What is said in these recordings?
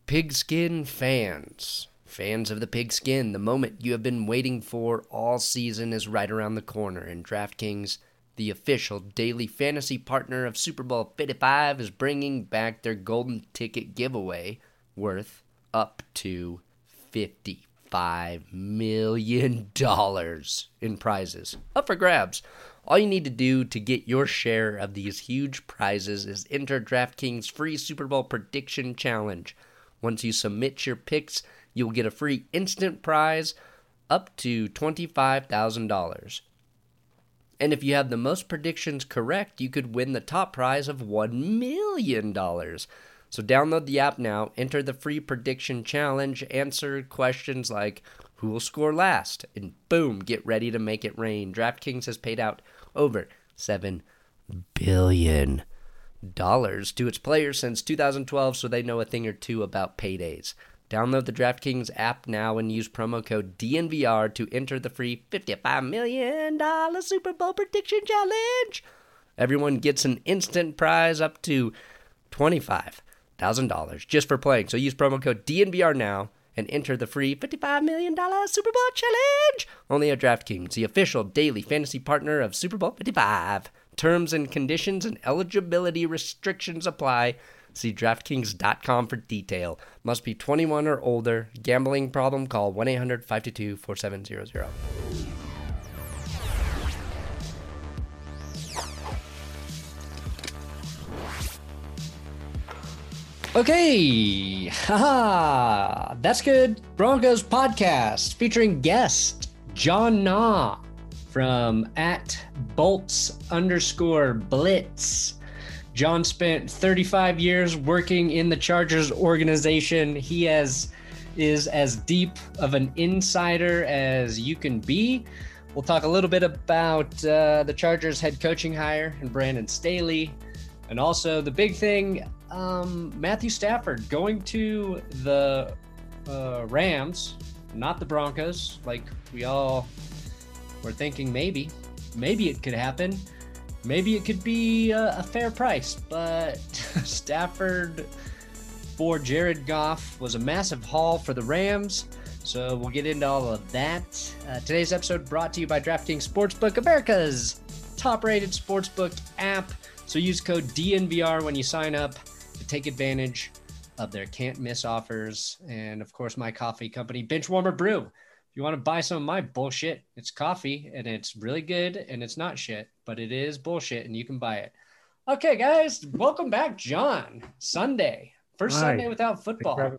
Pigskin fans of the pigskin, the moment you have been waiting for all season is right around the corner, and DraftKings, the official daily fantasy partner of Super Bowl 55, is bringing back their golden ticket giveaway worth up to $55 million in prizes up for grabs. All you need to do to get your share of these huge prizes is enter DraftKings' free Super Bowl prediction challenge. Once you submit your picks, you'll get a free instant prize up to $25,000. And if you have the most predictions correct, you could win the top prize of $1 million. So download the app now, enter the free prediction challenge, answer questions like who will score last, and boom, get ready to make it rain. DraftKings has paid out over $7 billion to its players since 2012, so they know a thing or two about paydays. Download the DraftKings app now and use promo code DNVR to enter the free $55 million Super Bowl prediction challenge. Everyone gets an instant prize up to $25,000 just for playing. So use promo code DNVR now and enter the free $55 million Super Bowl challenge. Only at DraftKings, the official daily fantasy partner of Super Bowl 55. Terms and conditions and eligibility restrictions apply. See DraftKings.com for detail. Must be 21 or older. Gambling problem? Call 1-800-522-4700. Okay, haha, that's good. Broncos podcast featuring guest John Nah from @Bolts_Blitz. John spent 35 years working in the Chargers organization. He is as deep of an insider as you can be. We'll talk a little bit about the Chargers head coaching hire and Brandon Staley. And also the big thing, Matthew Stafford going to the Rams, not the Broncos, like we all were thinking maybe it could happen. Maybe it could be a fair price, but Stafford for Jared Goff was a massive haul for the Rams. So we'll get into all of that. Today's episode brought to you by DraftKings Sportsbook, America's top-rated sportsbook app. So use code DNVR when you sign up to take advantage of their can't-miss offers. And, of course, my coffee company, Benchwarmer Brew. If you want to buy some of my bullshit, it's coffee, and it's really good, and it's not shit, but it is bullshit, and you can buy it. Okay, guys, welcome back, John. Sunday. First Sunday without football. Kind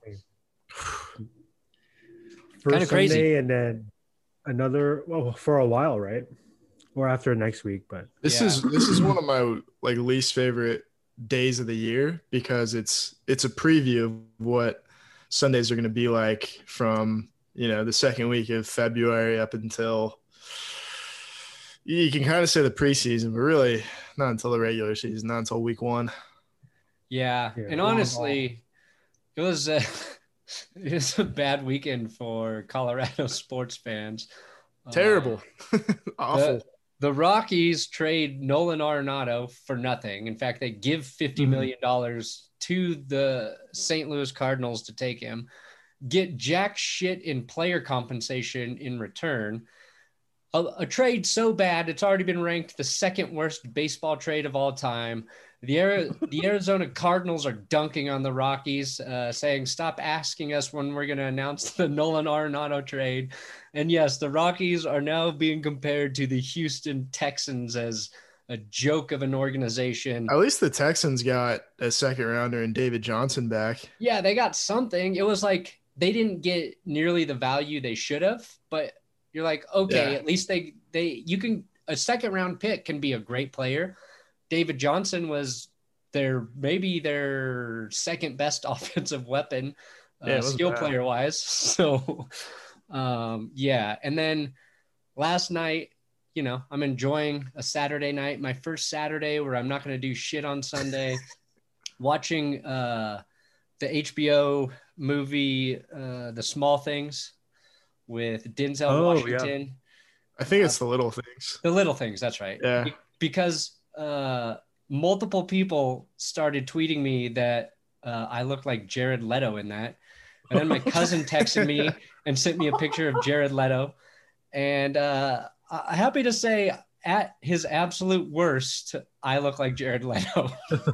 of crazy. Sunday and then another, well, for a while, right? Or after next week, but this is one of my least favorite days of the year because it's a preview of what Sundays are going to be like from the second week of February up until you can kind of say the preseason, but really not until the regular season, not until week one. Yeah. And honestly, it was a bad weekend for Colorado sports fans. Terrible. Awful. The Rockies trade Nolan Arenado for nothing. In fact, they give $50 million to the St. Louis Cardinals to take him, get jack shit in player compensation in return. A trade so bad, it's already been ranked the second worst baseball trade of all time. The Arizona Cardinals are dunking on the Rockies, saying, stop asking us when we're going to announce the Nolan Arenado trade. And yes, the Rockies are now being compared to the Houston Texans as a joke of an organization. At least the Texans got a second rounder and David Johnson back. Yeah, they got something. It was like they didn't get nearly the value they should have, but you're like, okay, at least a second round pick can be a great player. David Johnson was maybe their second best offensive weapon, skill player wise. So, And then last night, I'm enjoying a Saturday night, my first Saturday where I'm not going to do shit on Sunday, watching the HBO movie, The Small Things with Denzel Washington. Yeah. I think it's The Little Things. The Little Things, that's right. Yeah. Because multiple people started tweeting me that I look like Jared Leto in that. And then my cousin texted me and sent me a picture of Jared Leto. And I'm happy to say, at his absolute worst, I look like Jared Leto.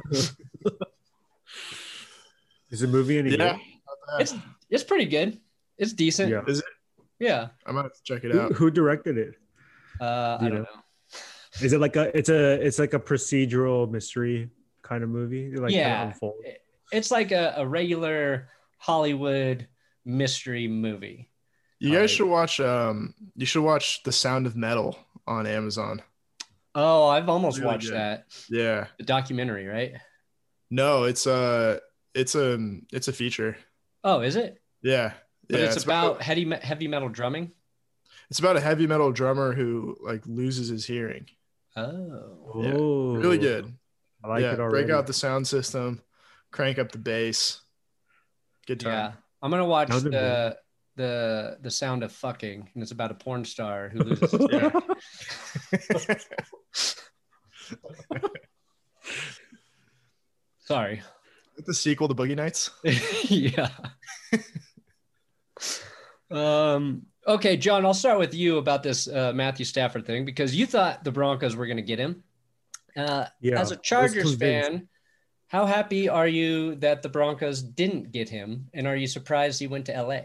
Is the movie any good? It's pretty good. It's decent. Yeah. Is it? Yeah. I might have to check it out. Who directed it? I don't know. Is it like it's like a procedural mystery kind of movie? Like kind of unfold? It's like a regular Hollywood mystery movie. You guys should watch you should watch The Sound of Metal on Amazon. Oh, I've almost Really watched good. that. Yeah. The documentary, right? No, it's a feature. Oh, is it? Yeah. But yeah, it's about heavy metal drumming. It's about a heavy metal drummer who like loses his hearing. Oh. Yeah. Oh, Really good. I like it already. Break out the sound system, crank up the bass. Good time. Yeah. I'm gonna watch Sound of the Sound of Fucking, and it's about a porn star who loses his hearing. Sorry. The sequel to Boogie Nights. Yeah. Okay, John, I'll start with you about this Matthew Stafford thing, because you thought the Broncos were going to get him. As a Chargers fan, how happy are you that the Broncos didn't get him, and are you surprised he went to LA?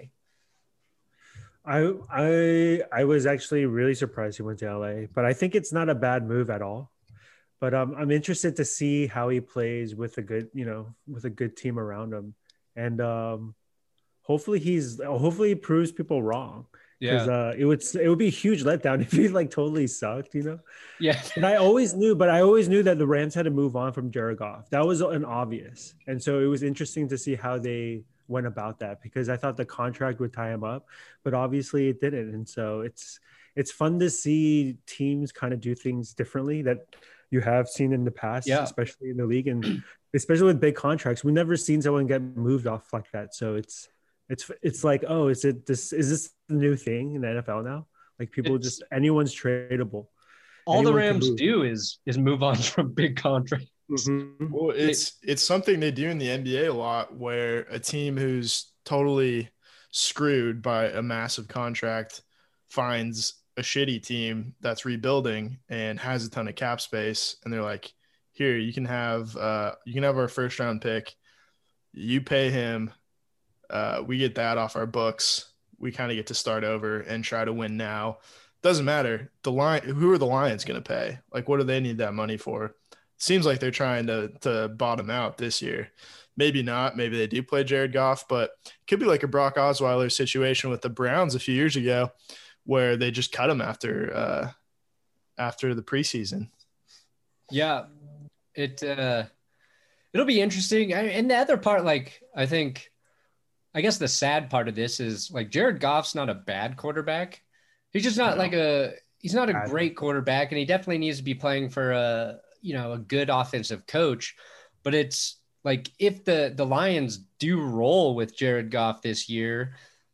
I was actually really surprised he went to LA, but I think it's not a bad move at all. But I'm interested to see how he plays with a good team around him, and hopefully he proves people wrong. Yeah, because it would be a huge letdown if he like totally sucked, yeah. And I always knew that the Rams had to move on from Jared Goff. That was an obvious, and so it was interesting to see how they went about that, because I thought the contract would tie him up, but obviously it didn't. And so it's fun to see teams kind of do things differently that you have seen in the past, especially in the league, and especially with big contracts. We've never seen someone get moved off like that. So it's like, oh, is this the new thing in the NFL now? Like anyone's tradable. All the Rams do is move on from big contracts. Mm-hmm. Well, it's something they do in the NBA a lot, where a team who's totally screwed by a massive contract finds a shitty team that's rebuilding and has a ton of cap space, and they're like, here, you can have our first round pick, you pay him, we get that off our books, we kind of get to start over and try to win now. Doesn't matter who are the Lions going to pay? Like, what do they need that money for? Seems like they're trying to bottom out this year. Maybe not. Maybe they do play Jared Goff, but it could be like a Brock Osweiler situation with the Browns a few years ago, where they just cut him after the preseason. Yeah, it'll be interesting. And the other part, like, I guess the sad part of this is, like, Jared Goff's not a bad quarterback. He's just not he's not a great quarterback, and he definitely needs to be playing for a good offensive coach. But it's like, if the Lions do roll with Jared Goff this year,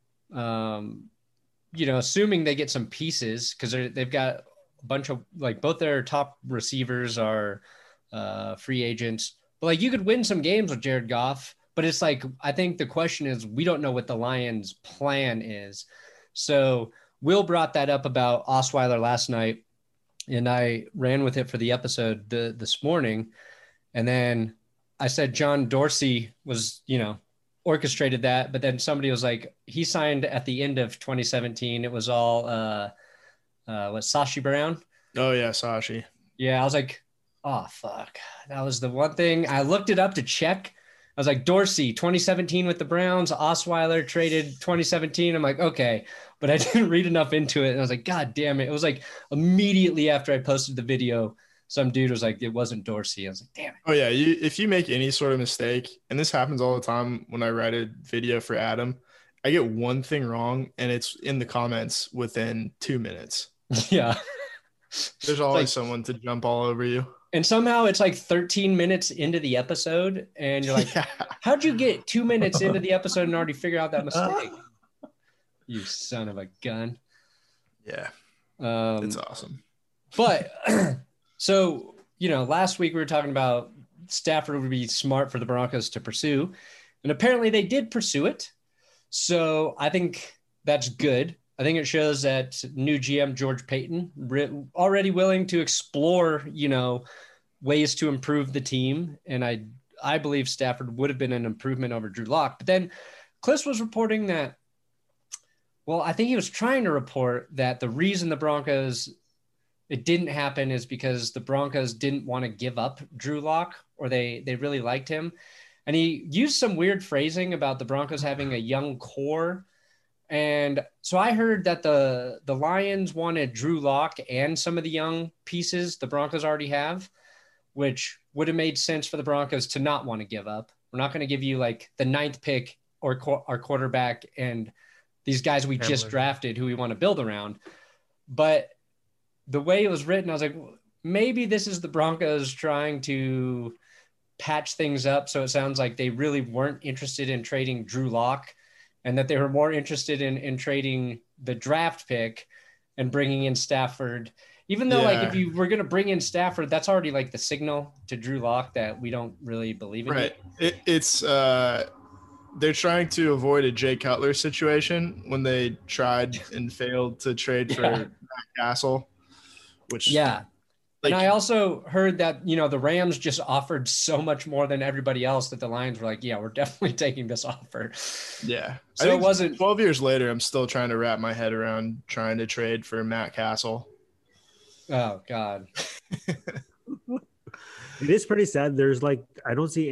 assuming they get some pieces, because they've got a bunch of, like, both their top receivers are free agents, but like, you could win some games with Jared Goff. But it's like, I think the question is, we don't know what the Lions' plan is. So Will brought that up about Osweiler last night, and I ran with it for the episode this morning. And then I said John Dorsey was, orchestrated that. But then somebody was like, he signed at the end of 2017. It was all, Sashi Brown? Oh, yeah, Sashi. Yeah, I was like, oh, fuck. That was the one thing. I looked it up to check. I was like, Dorsey, 2017 with the Browns, Osweiler traded 2017. I'm like, okay. But I didn't read enough into it. And I was like, God damn it. It was like immediately after I posted the video, some dude was like, it wasn't Dorsey. I was like, damn it. Oh, yeah. If you make any sort of mistake, and this happens all the time when I write a video for Adam, I get one thing wrong, and it's in the comments within 2 minutes. Yeah. There's always someone to jump all over you. And somehow it's like 13 minutes into the episode, and you're like, how'd you get 2 minutes into the episode and already figure out that mistake? You son of a gun. Yeah. It's awesome. But so, last week we were talking about Stafford would be smart for the Broncos to pursue. And apparently they did pursue it. So I think that's good. I think it shows that new GM George Paton already willing to explore, ways to improve the team. And I believe Stafford would have been an improvement over Drew Lock. But then Cliff was reporting that, well, I think he was trying to report that the reason it didn't happen is because the Broncos didn't want to give up Drew Lock, or they really liked him. And he used some weird phrasing about the Broncos having a young core. And so I heard that the Lions wanted Drew Lock and some of the young pieces the Broncos already have, which would have made sense for the Broncos to not want to give up. We're not going to give you like the 9th pick or our quarterback and these guys we just drafted who we want to build around. But the way it was written, I was like, maybe this is the Broncos trying to patch things up. So it sounds like they really weren't interested in trading Drew Lock, and that they were more interested in trading the draft pick and bringing in Stafford. Even though, like, if you were going to bring in Stafford, that's already like the signal to Drew Lock that we don't really believe in it. It's they're trying to avoid a Jay Cutler situation when they tried and failed to trade for Matt Castle, which and I also heard that, the Rams just offered so much more than everybody else that the Lions were like, yeah, we're definitely taking this offer. Yeah. So it wasn't 12 years later. I'm still trying to wrap my head around trying to trade for Matt Castle. Oh God. It is pretty sad. There's I don't see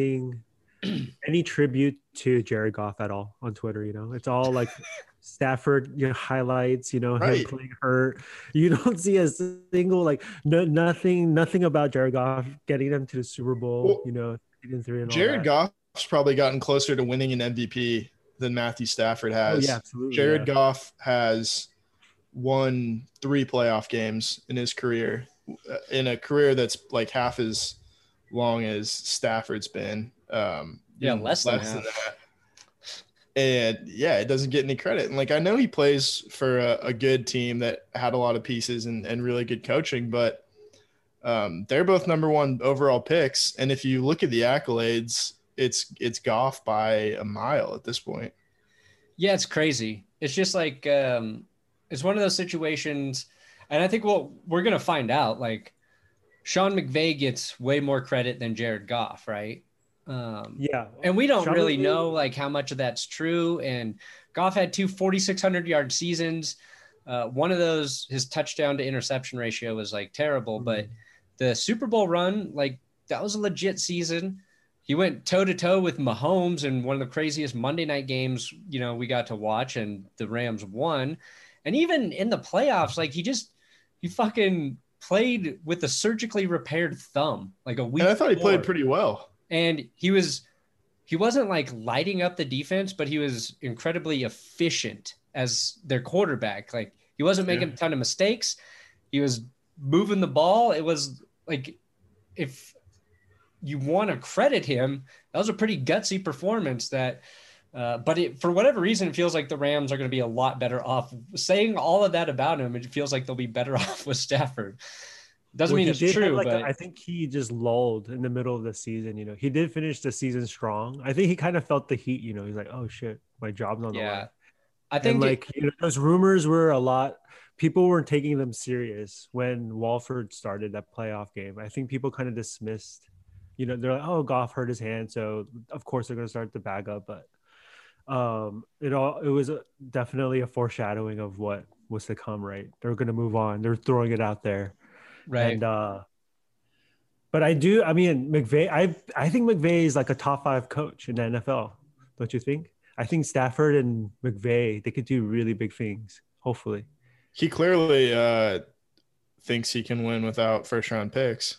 any tribute to Jared Goff at all on Twitter. It's all like Stafford, highlights, him playing hurt. You don't see a single nothing about Jared Goff getting them to the Super Bowl. Well, 3 and Jared Goff's probably gotten closer to winning an MVP than Matthew Stafford has. Oh, yeah, absolutely. Jared Goff has won 3 playoff games in his career, in a career that's like half as long as Stafford's been. Less than that. And it doesn't get any credit. And I know he plays for a good team that had a lot of pieces and really good coaching, but they're both number 1 overall picks. And if you look at the accolades, it's Goff by a mile at this point. Yeah, it's crazy. It's just like it's one of those situations, and I think we're gonna find out. Like Sean McVay gets way more credit than Jared Goff, right? And we don't really know how much of that's true. And Goff had 2 4,600-yard seasons. One of those, his touchdown to interception ratio was terrible, but the Super Bowl run, that was a legit season. He went toe to toe with Mahomes in one of the craziest Monday night games, we got to watch, and the Rams won. And even in the playoffs, he fucking played with a surgically repaired thumb, a week. And I thought he played pretty well. And he wasn't lighting up the defense, but he was incredibly efficient as their quarterback. He wasn't making a ton of mistakes. He was moving the ball. It was if you want to credit him, that was a pretty gutsy performance but for whatever reason, it feels like the Rams are going to be a lot better off. Saying all of that about him, it feels like they'll be better off with Stafford. Doesn't mean it's true, but I think he just lulled in the middle of the season. He did finish the season strong. I think he kind of felt the heat. He's like, "Oh shit, my job's on the line." I think those rumors were a lot. People weren't taking them serious when Walford started that playoff game. I think people kind of dismissed. They're like, "Oh, Goff hurt his hand, so of course they're going to start the bag up." But it was definitely a foreshadowing of what was to come. Right, they're going to move on. They're throwing it out there. Right. And but McVay, I think McVay is a top 5 coach in the NFL. Don't you think? I think Stafford and McVay, they could do really big things, hopefully. He clearly thinks he can win without first round picks.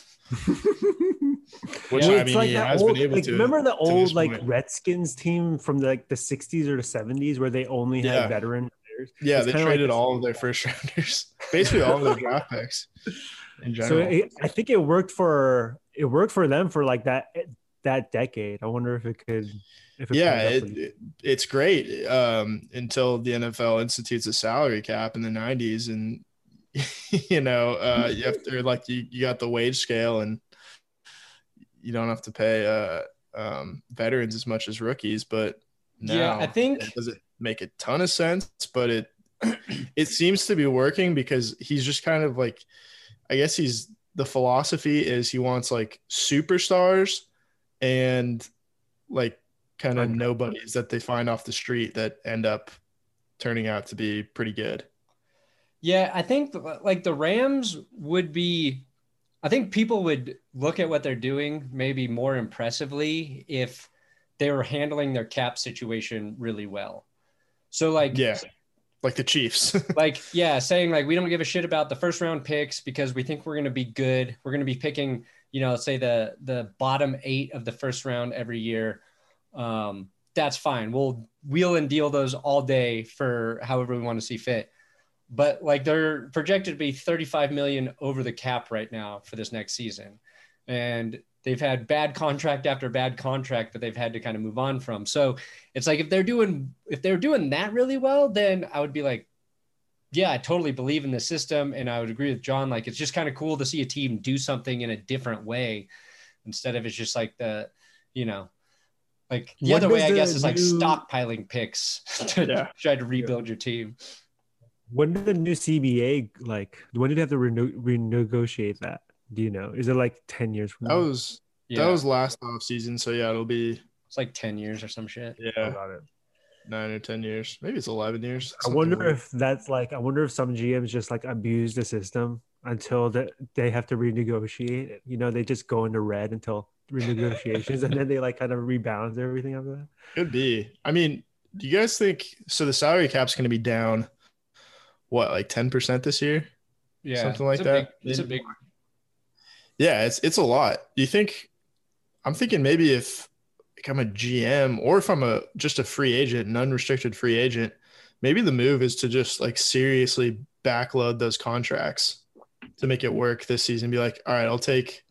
Which he has been able to. Remember the old Redskins team from the 60s or the 70s where they only had veteran players? Yeah, they traded all of their first rounders, basically all of their draft picks in general. So I think it worked for them for that decade. I wonder if it could. It's great until the NFL institutes a salary cap in the 90s, and you have to you got the wage scale, and you don't have to pay veterans as much as rookies, but now I think it doesn't make a ton of sense, but it seems to be working because he's just kind of like, I guess the philosophy is he wants like superstars and like kind of nobodies that they find off the street that end up turning out to be pretty good. Yeah, I think like the Rams would be, I think people would look at what they're doing maybe more impressively if they were handling their cap situation really well. So like, yeah, like the Chiefs. like, yeah, saying like, we don't give a shit about the first round picks because we think we're going to be good. We're going to be picking, you know, say the bottom 8 of the first round every year. That's fine. We'll wheel and deal those all day for however we want to see fit. But like they're projected to be 35 million over the cap right now for this next season. And they've had bad contract after bad contract that they've had to kind of move on from. So it's like, if they're doing that really well, then I would be like, yeah, I totally believe in the system. And I would agree with John. Like, it's just kind of cool to see a team do something in a different way instead of it's just like the, you know, like the other way, I guess, is like stockpiling picks to try to rebuild your team. When did the new CBA, like, when did they have to renegotiate that? Do you know? Is it like 10 years from now? That was last off season. So yeah, it's like 10 years or some shit. Yeah. I got it. 9 or 10 years. Maybe it's 11 years. I wonder if that's like, I wonder if some GMs just like abuse the system until they have to renegotiate it. You know, they just go into red until renegotiations and then they like kind of rebalance everything after that. Could be. I mean, do you guys think so? The salary cap's going to be down, what, like 10% this year? Yeah, something like that. It's a big. Yeah, it's a lot. Do you think? I'm thinking maybe if I'm a GM or if I'm just a free agent, an unrestricted free agent, maybe the move is to just like seriously backload those contracts to make it work this season. Be like, all right, I'll take,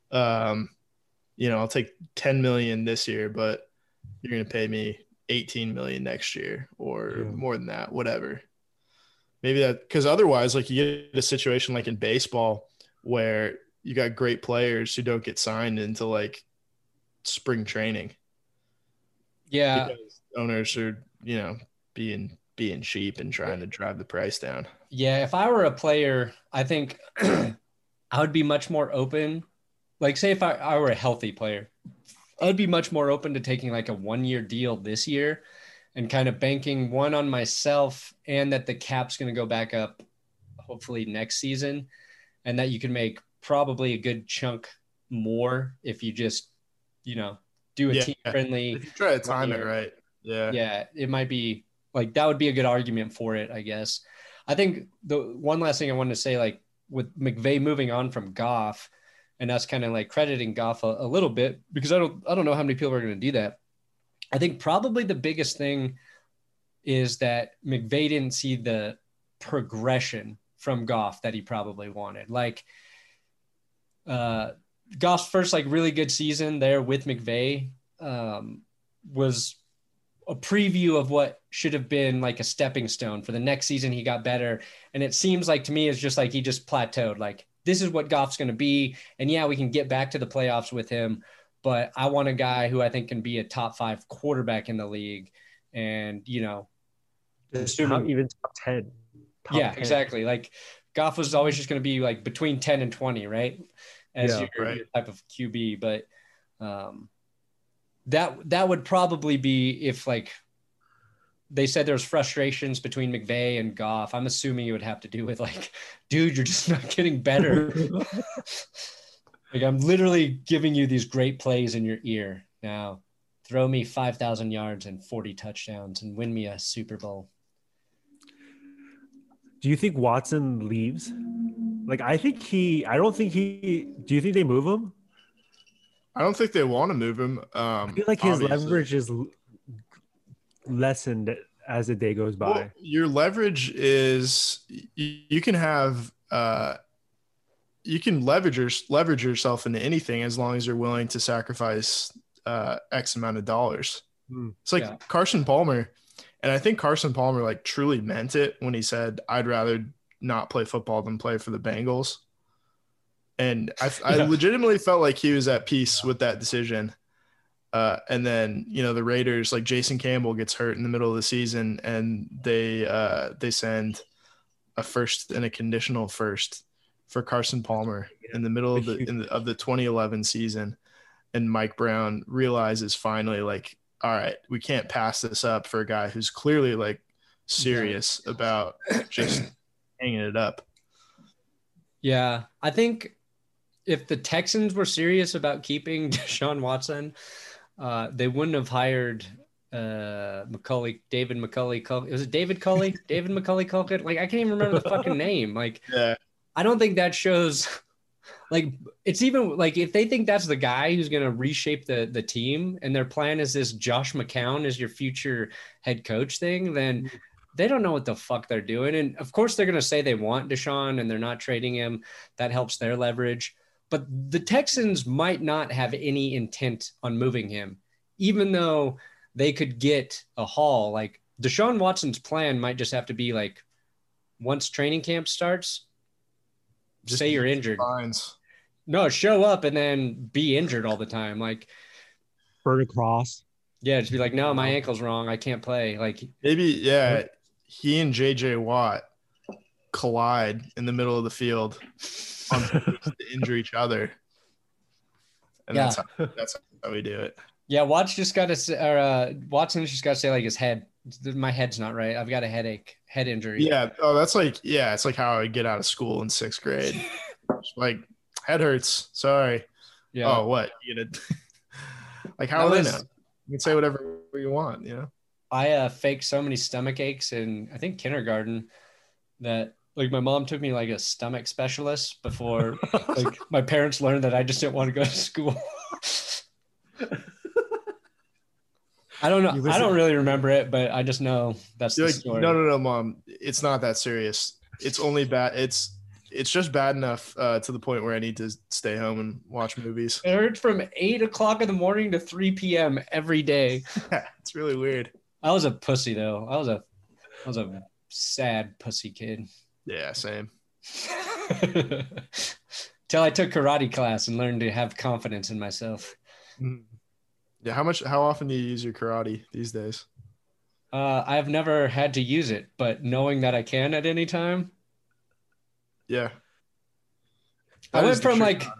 I'll take 10 million this year, but you're going to pay me 18 million next year or more than that, whatever. Maybe that, because otherwise, like, you get a situation like in baseball where you got great players who don't get signed into like spring training. Yeah. Because owners are, being cheap and trying to drive the price down. Yeah. If I were a player, I think I would be much more open. Like, say if I were a healthy player, I'd be much more open to taking like a 1-year deal this year and kind of banking one on myself and that the cap's going to go back up hopefully next season and that you can make probably a good chunk more if you just, do a team friendly. If you try to time it right. Yeah. Yeah. It might be like, that would be a good argument for it, I guess. I think the one last thing I wanted to say, like with McVay moving on from Goff and us kind of like crediting Goff a little bit, because I don't know how many people are going to do that. I think probably the biggest thing is that McVay didn't see the progression from Goff that he probably wanted. Like Goff's first like really good season there with McVay was a preview of what should have been like a stepping stone for the next season. He got better. And it seems like to me, it's just like, he just plateaued. Like, this is what Goff's going to be. And yeah, we can get back to the playoffs with him, but I want a guy who I think can be a top 5 quarterback in the league. And, assuming even top 10. Top 10. Exactly. Like Goff was always just going to be like between 10 and 20, right? As your type of QB. But that would probably be if like they said there's frustrations between McVay and Goff. I'm assuming it would have to do with like, dude, you're just not getting better. Like, I'm literally giving you these great plays in your ear. Now throw me 5,000 yards and 40 touchdowns and win me a Super Bowl. Do you think Watson leaves? Like, do you think they move him? I don't think they want to move him. I feel like his leverage is lessened as the day goes by. Well, your leverage is you can have you can leverage yourself into anything as long as you're willing to sacrifice X amount of dollars. It's like Carson Palmer, and I think Carson Palmer like truly meant it when he said, "I'd rather not play football than play for the Bengals." And I legitimately felt like he was at peace with that decision. And then, the Raiders, like Jason Campbell gets hurt in the middle of the season, and they send a first and a conditional first for Carson Palmer in the middle of the 2011 season. And Mike Brown realizes finally, like, all right, we can't pass this up for a guy who's clearly like serious about just hanging it up. Yeah, I think if the Texans were serious about keeping Deshaun Watson, they wouldn't have hired David McCully. Was it David Culley? David McCully Culkin? Like, I can't even remember the fucking name. Like, yeah. I don't think that shows. Like, it's even like if they think that's the guy who's going to reshape the team, and their plan is this Josh McCown is your future head coach thing, then they don't know what the fuck they're doing. And of course, they're going to say they want Deshaun and they're not trading him. That helps their leverage. But the Texans might not have any intent on moving him, even though they could get a haul. Like, Deshaun Watson's plan might just have to be like, once training camp starts, just say you're injured. Fines. No, show up and then be injured all the time. Like, burn a cross. Yeah, just be like, no, my ankle's wrong. I can't play. Like, maybe, yeah, he and JJ Watt collide in the middle of the field to injure each other. And that's how we do it. Yeah, Watson's just got to say, like, his head. My head's not right. I've got a headache, head injury. Yeah. Oh, it's like how I get out of school in 6th grade. Like, head hurts. Sorry. Yeah. Oh, what? You gonna like, how will they know? You can say whatever you want, I faked so many stomach aches in, I think, kindergarten that, like, my mom took me like a stomach specialist before like my parents learned that I just didn't want to go to school. I don't know. I don't really remember it, but I just know that's the story. No, Mom. It's not that serious. It's only bad. It's just bad enough to the point where I need to stay home and watch movies. It hurts from 8 o'clock in the morning to 3 p.m. every day. It's really weird. I was a pussy though. I was a sad pussy kid. Yeah, same. Till I took karate class and learned to have confidence in myself. Yeah, how often do you use your karate these days? I've never had to use it, but knowing that I can at any time. Yeah. I went from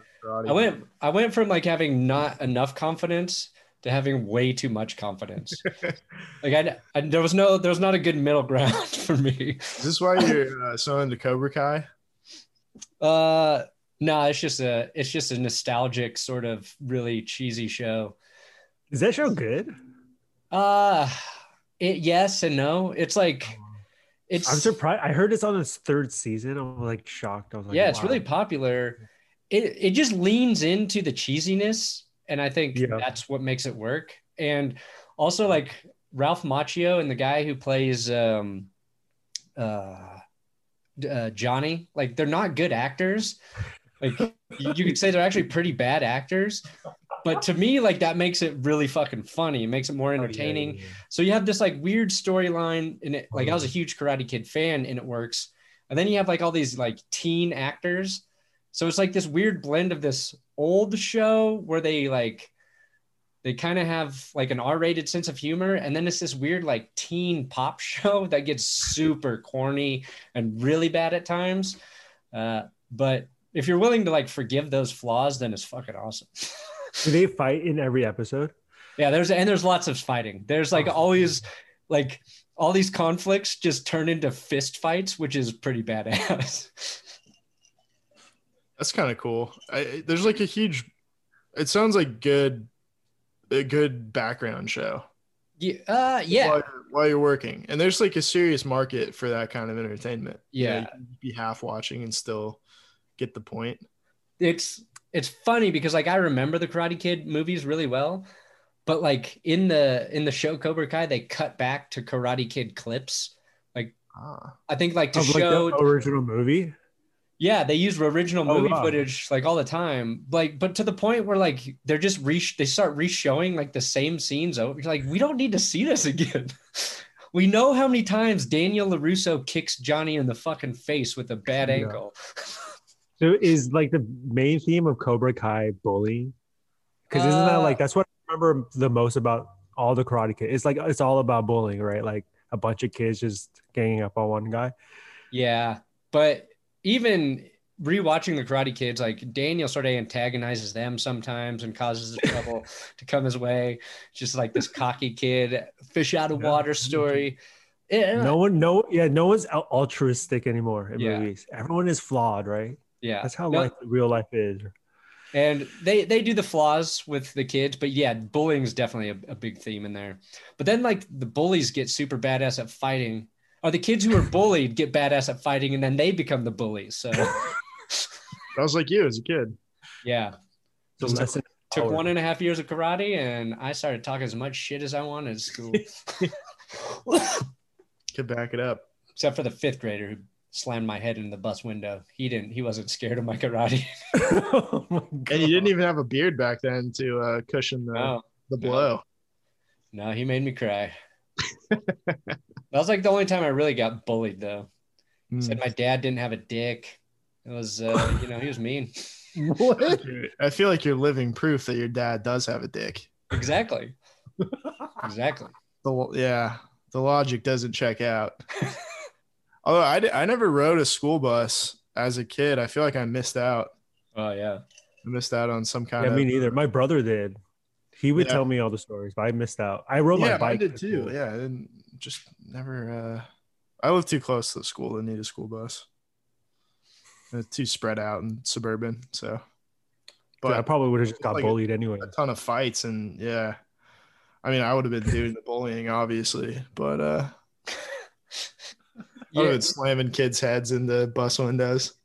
like having not enough confidence to having way too much confidence. Like there was not a good middle ground for me. Is this why you're so into Cobra Kai? No, it's just a nostalgic sort of really cheesy show. Is that show good? Yes and no. It's like I'm surprised. I heard it's on its 3rd season. I'm like shocked. I was like, yeah, it's really popular. It just leans into the cheesiness, and I think that's what makes it work. And also, like, Ralph Macchio and the guy who plays Johnny, like, they're not good actors. Like, you could say they're actually pretty bad actors. But to me, like, that makes it really fucking funny. It makes it more entertaining. Yeah. So you have this like weird storyline in it. Like, I was a huge Karate Kid fan and it works. And then you have like all these like teen actors. So it's like this weird blend of this old show where they kind of have like an R-rated sense of humor. And then it's this weird like teen pop show that gets super corny and really bad at times. But if you're willing to like forgive those flaws, then it's fucking awesome. Do they fight in every episode? Yeah, there's lots of fighting. There's like always like all these conflicts just turn into fist fights, which is pretty badass. That's kind of cool. There's like it sounds like a good background show. Yeah. While you're working. And there's like a serious market for that kind of entertainment. Yeah. You can be half watching and still get the point. It's funny because like I remember the Karate Kid movies really well, but like in the show Cobra Kai, they cut back to Karate Kid clips. Like I think like to show like the original movie. Yeah, they use original movie footage like all the time. Like, but to the point where like they're just they start re-showing like the same scenes over. You're like, we don't need to see this again. We know how many times Daniel LaRusso kicks Johnny in the fucking face with a bad ankle. So is like the main theme of Cobra Kai bullying? Because isn't that like that's what I remember the most about all the Karate Kid? It's like it's all about bullying, right? Like a bunch of kids just ganging up on one guy. Yeah, but even rewatching the Karate Kids, like Daniel sort of antagonizes them sometimes and causes the trouble to come his way. Just like this cocky kid, fish out of water story. No one's altruistic anymore in movies. Everyone is flawed, right? Yeah, that's how real life is. And they do the flaws with the kids, but yeah, bullying is definitely a big theme in there. But then like the bullies get super badass at fighting, or the kids who are bullied get badass at fighting, and then they become the bullies. So I was like you as a kid. Yeah. Took 1.5 years of karate, and I started talking as much shit as I wanted at school. Could back it up. Except for the 5th grader who slammed my head in the bus window. He wasn't scared of my karate. Oh my and you didn't even have a beard back then to cushion the blow. No, he made me cry. That was like the only time I really got bullied though. Said my dad didn't have a dick. It was he was mean. What? I feel like you're living proof that your dad does have a dick. Exactly. The logic doesn't check out. Although I never rode a school bus as a kid. I feel like I missed out. Oh, yeah. I missed out on some kind of... Yeah, me neither. My brother did. He would tell me all the stories, but I missed out. I rode my bike. I did too. Yeah, I didn't just never... I lived too close to the school to need a school bus. It's too spread out and suburban, so... But I probably would have just got bullied anyway. A ton of fights, and yeah. I mean, I would have been doing the bullying, obviously, but... I would have been slamming kids' heads into bus windows.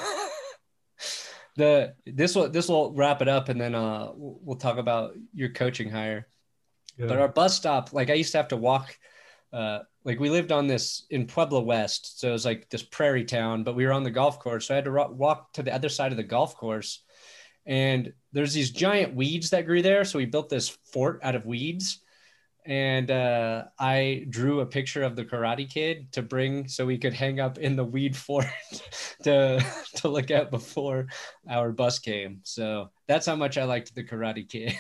This will wrap it up, and then we'll talk about your coaching hire. Yeah. But our bus stop, like I used to have to walk. Like we lived on this in Pueblo West, so it was like this prairie town. But we were on the golf course, so I had to walk to the other side of the golf course. And there's these giant weeds that grew there, so we built this fort out of weeds. And I drew a picture of the Karate Kid to bring so we could hang up in the weed fort to look at before our bus came. So that's how much I liked the Karate Kid.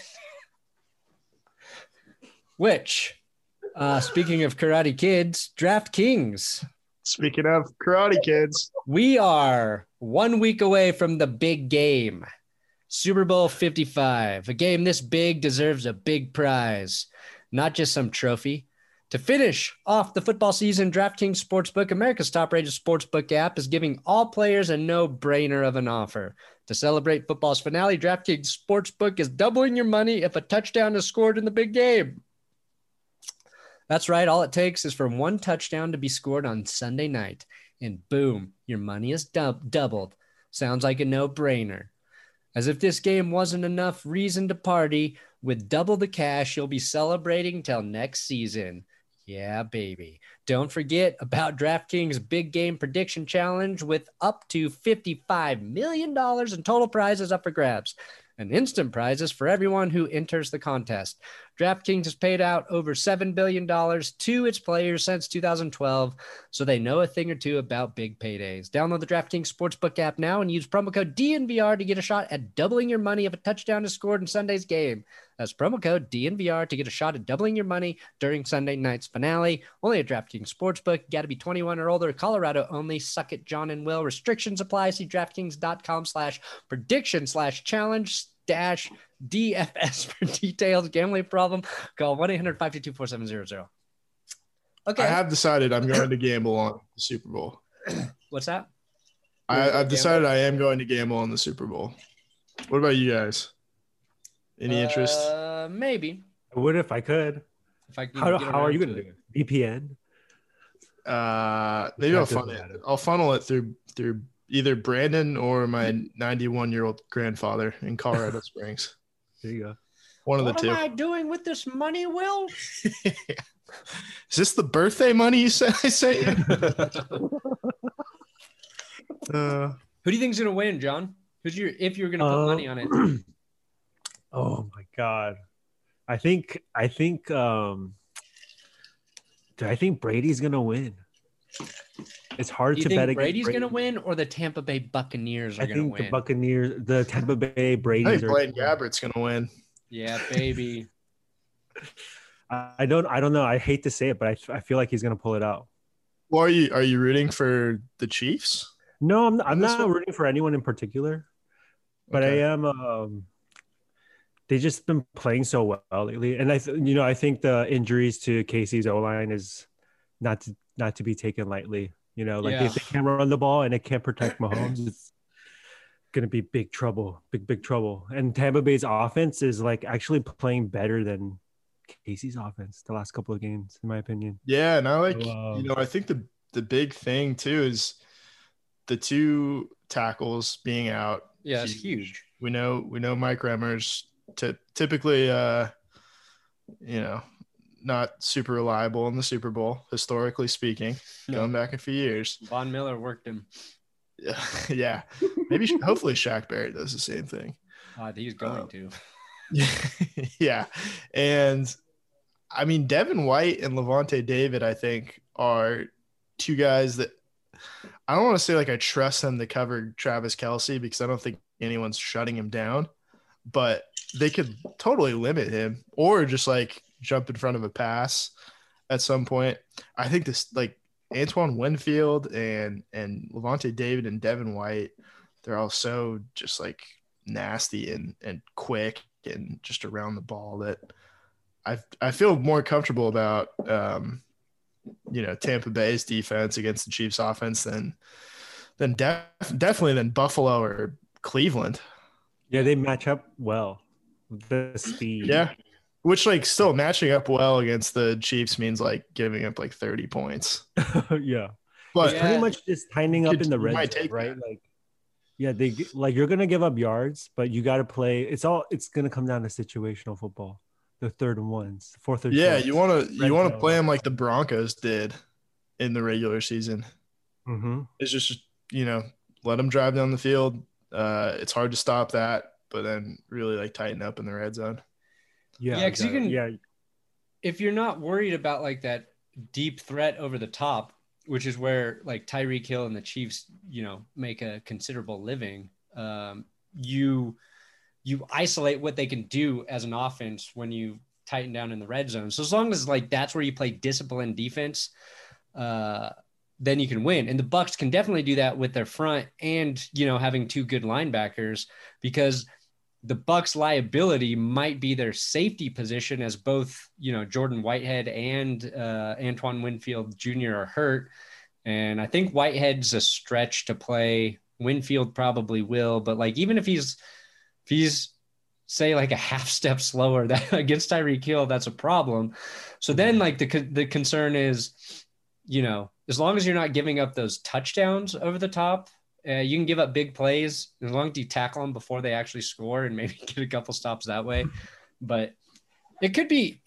Which, speaking of Karate Kids, DraftKings. Speaking of Karate Kids, we are 1 week away from the big game, Super Bowl 55. A game this big deserves a big prize. Not just some trophy. To finish off the football season, DraftKings Sportsbook, America's top-rated sportsbook app, is giving all players a no-brainer of an offer. To celebrate football's finale, DraftKings Sportsbook is doubling your money if a touchdown is scored in the big game. That's right. All it takes is for one touchdown to be scored on Sunday night, and boom, your money is doubled. Sounds like a no-brainer. As if this game wasn't enough reason to party, with double the cash, you'll be celebrating till next season. Yeah, baby. Don't forget about DraftKings Big Game Prediction Challenge with up to $55 million in total prizes up for grabs and instant prizes for everyone who enters the contest. DraftKings has paid out over $7 billion to its players since 2012, so they know a thing or two about big paydays. Download the DraftKings Sportsbook app now and use promo code DNVR to get a shot at doubling your money if a touchdown is scored in Sunday's game. That's promo code DNVR to get a shot at doubling your money during Sunday night's finale. Only at DraftKings Sportsbook. Got to be 21 or older. Colorado only. Suck it, John and Will. Restrictions apply. See DraftKings.com/prediction/challenge-DFS for details. Gambling problem? Call 1-800-522-4700. Okay. I have decided I'm going to gamble on the Super Bowl. What's that? I've decided I am going to gamble on the Super Bowl. What about you guys? Any interest? Maybe. I would if I could. How are you going to do it? VPN? Maybe I'll funnel it through either Brandon or my 91-year-old grandfather in Colorado Springs. There you go. One of the two. What am I doing with this money, Will? Is this the birthday money you said I sent you? Who do you think's going to win, John? If you're going to put money on it? Oh my God. I think Brady's gonna win. It's hard Do you to think bet against Brady's Brady. going to win, or the Tampa Bay Buccaneers are I going to think the win? Buccaneers, the Tampa Bay I Brady's think are. Blaine Gabbert's gonna win. Yeah, baby. I don't know. I hate to say it, but I feel like he's gonna pull it out. Well, are you rooting for the Chiefs? No, I'm this not one? rooting for anyone in particular, but Okay. I am. They just been playing so well lately, and I think the injuries to Casey's O line is not to be taken lightly. Like Yeah. if they can't run the ball and they can't protect Mahomes, it's gonna be big trouble, big trouble. And Tampa Bay's offense is like actually playing better than Casey's offense the last couple of games, in my opinion. Yeah, and I like, So, I think the big thing too is the two tackles being out. Yeah, it's huge. We know Mike Remmers typically not super reliable in the Super Bowl, historically speaking, going back a few years. Von Miller worked him. Yeah. Maybe hopefully Shaq Barrett does the same thing. He's going to. Yeah. And I mean, Devin White and Levante David, I think, are two guys that I don't want to say like I trust them to cover Travis Kelce because I don't think anyone's shutting him down, but they could totally limit him or just like jump in front of a pass at some point. I think this like Antoine Winfield and Levante David and Devin White, they're all so just like nasty and quick and just around the ball that I feel more comfortable about Tampa Bay's defense against the Chiefs offense than definitely than Buffalo or Cleveland. yeah, they match up well. The speed. Yeah. Which like still matching up well against the Chiefs means like giving up like 30 points. Yeah. But It's pretty much just tightening up in the you red might zone, take right? that. Like, yeah, you're gonna give up yards, but you got to play. It's gonna come down to situational football. The third and ones, fourth and Yeah, shorts. you want to zone. play them like the Broncos did in the regular season. Mm-hmm. It's just let them drive down the field. It's hard to stop that, but then really like tighten up in the red zone. Yeah, because you can. Yeah, If you're not worried about like that deep threat over the top, which is where like Tyreek Hill and the Chiefs, make a considerable living, you isolate what they can do as an offense when you tighten down in the red zone. So as long as like that's where you play disciplined defense, then you can win. And the Bucs can definitely do that with their front and having two good linebackers, because the Bucs' liability might be their safety position, as both Jordan Whitehead and Antoine Winfield Jr. are hurt. And I think Whitehead's a stretch to play. Winfield probably will, but like even if he's say like a half step slower that against Tyreek Hill, that's a problem. So then like the concern is, as long as you're not giving up those touchdowns over the top, you can give up big plays as long as you tackle them before they actually score and maybe get a couple stops that way. But it could be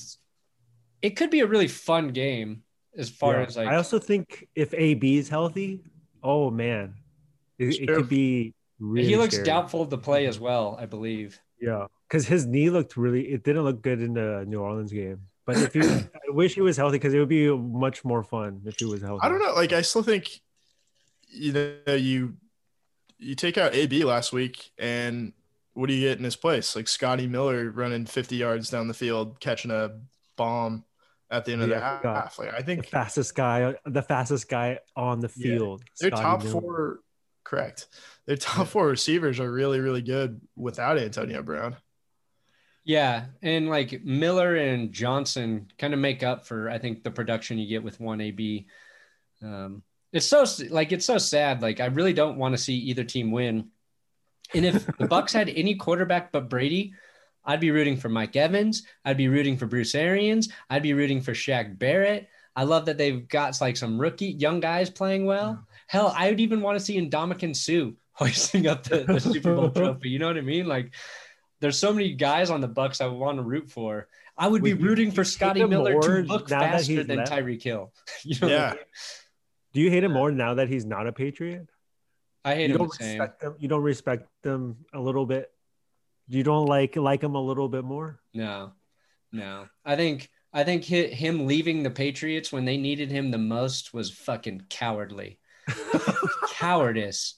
a really fun game as far as like. I also think if AB is healthy, oh man, it could be really. He looks scary. doubtful to play as well, I believe. Yeah, because his knee it didn't look good in the New Orleans game. But I wish he was healthy because it would be much more fun if he was healthy. I don't know. Like I still think, you take out AB last week, and what do you get in his place? Like Scotty Miller running 50 yards down the field, catching a bomb at the end of the half. Like I think the fastest guy on the field. Their Scotty top Miller. four, correct. Their top four receivers are really, really good without Antonio Brown. Yeah, and like Miller and Johnson kind of make up for, I think, the production you get with one AB. It's so sad. Like I really don't want to see either team win. And if the Bucs had any quarterback but Brady, I'd be rooting for Mike Evans. I'd be rooting for Bruce Arians. I'd be rooting for Shaq Barrett. I love that they've got like some rookie young guys playing well. Hell, I would even want to see Ndamukong Suh hoisting up the Super Bowl trophy. You know what I mean? Like there's so many guys on the Bucs I would want to root for. I would be rooting for Scotty Miller to look faster than Tyreek Hill. Yeah. Do you hate him more now that he's not a Patriot? I hate him the same. You don't respect him a little bit? You don't like him a little bit more? No. I think I think him leaving the Patriots when they needed him the most was fucking cowardly. Cowardice.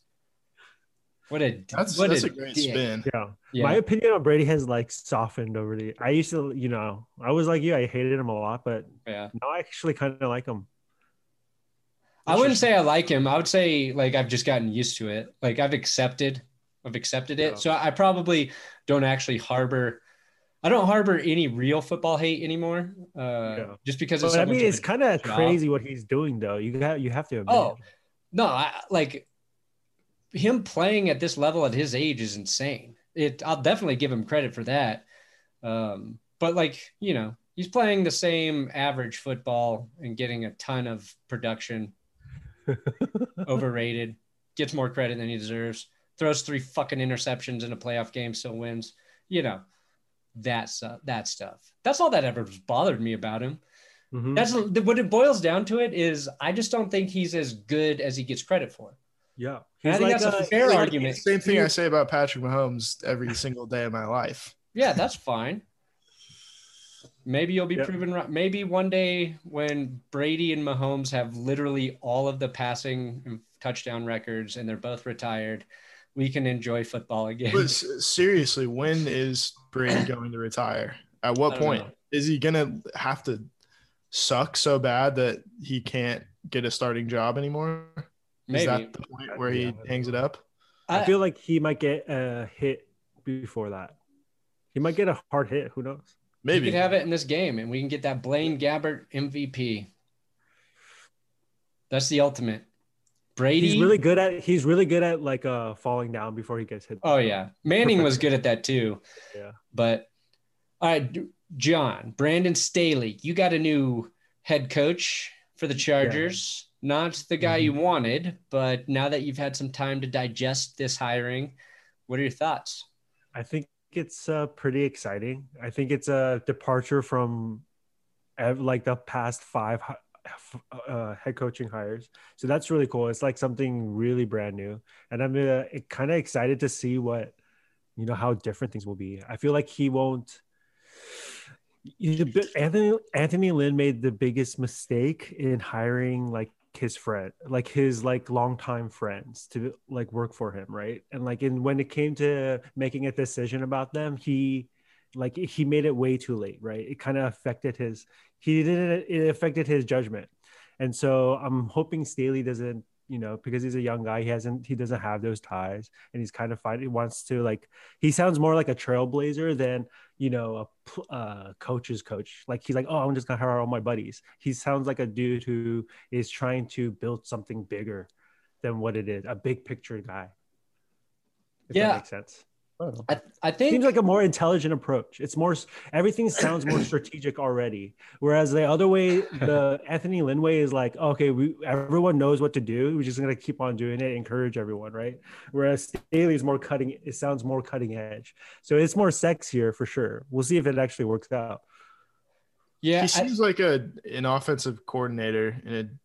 That's a great dick. spin. Yeah. My opinion on Brady has like softened over the. I used to, I was like you. I hated him a lot, but yeah, now I actually kind of like him. I wouldn't say I like him. I would say like I've just gotten used to it. Like I've accepted it. Yeah. So I probably don't actually harbor. I don't harbor any real football hate anymore. Just because it's. But I mean, it's kind of crazy what he's doing, though. You have to admit. Oh no, I like him playing at this level at his age is insane. I'll definitely give him credit for that. But like he's playing the same average football and getting a ton of production. Overrated, gets more credit than he deserves, throws 3 fucking interceptions in a playoff game, still wins. That stuff. That's all that ever bothered me about him. Mm-hmm. That's what it boils down to. It is I just don't think he's as good as he gets credit for. Yeah, I think that's a fair argument. Same thing I say about Patrick Mahomes every single day of my life. Yeah, that's fine. Maybe you'll be proven right. Maybe one day when Brady and Mahomes have literally all of the passing and touchdown records and they're both retired, we can enjoy football again. But seriously, when is Brady going to retire? At what point? Is he going to have to suck so bad that he can't get a starting job anymore? Maybe. Is that the point where he hangs it up? I feel like he might get a hit before that. He might get a hard hit. Who knows? Maybe we could have it in this game, and we can get that Blaine Gabbert MVP. That's the ultimate. Brady. He's really good at like falling down before he gets hit. Oh yeah, Manning was good at that too. Yeah. But all right, John, Brandon Staley, you got a new head coach for the Chargers. Yeah. Not the guy you wanted, but now that you've had some time to digest this hiring, what are your thoughts? I think it's pretty exciting. I think it's a departure from like the past 5 head coaching hires. So that's really cool. It's like something really brand new. And I'm kind of excited to see what, how different things will be. I feel like he won't. Anthony Lynn made the biggest mistake in hiring like his friend, like his like longtime friends to like work for him, right? And like when it came to making a decision about them, he made it way too late, right? It kind of affected it affected his judgment. And so I'm hoping Staley doesn't, because he's a young guy, he doesn't have those ties, and he's kind of he wants to he sounds more like a trailblazer than a coach's coach. Like he's like, oh, I'm just gonna hire all my buddies. He sounds like a dude who is trying to build something bigger than what it is, a big picture guy. If that makes sense. I think seems like a more intelligent approach. It's more, everything sounds more strategic already. Whereas the other way, the Anthony Lynn way is like, okay, everyone knows what to do. We're just going to keep on doing it, encourage everyone, right? Whereas Staley is it sounds more cutting edge. So it's more sexier for sure. We'll see if it actually works out. Yeah. He seems like an offensive coordinator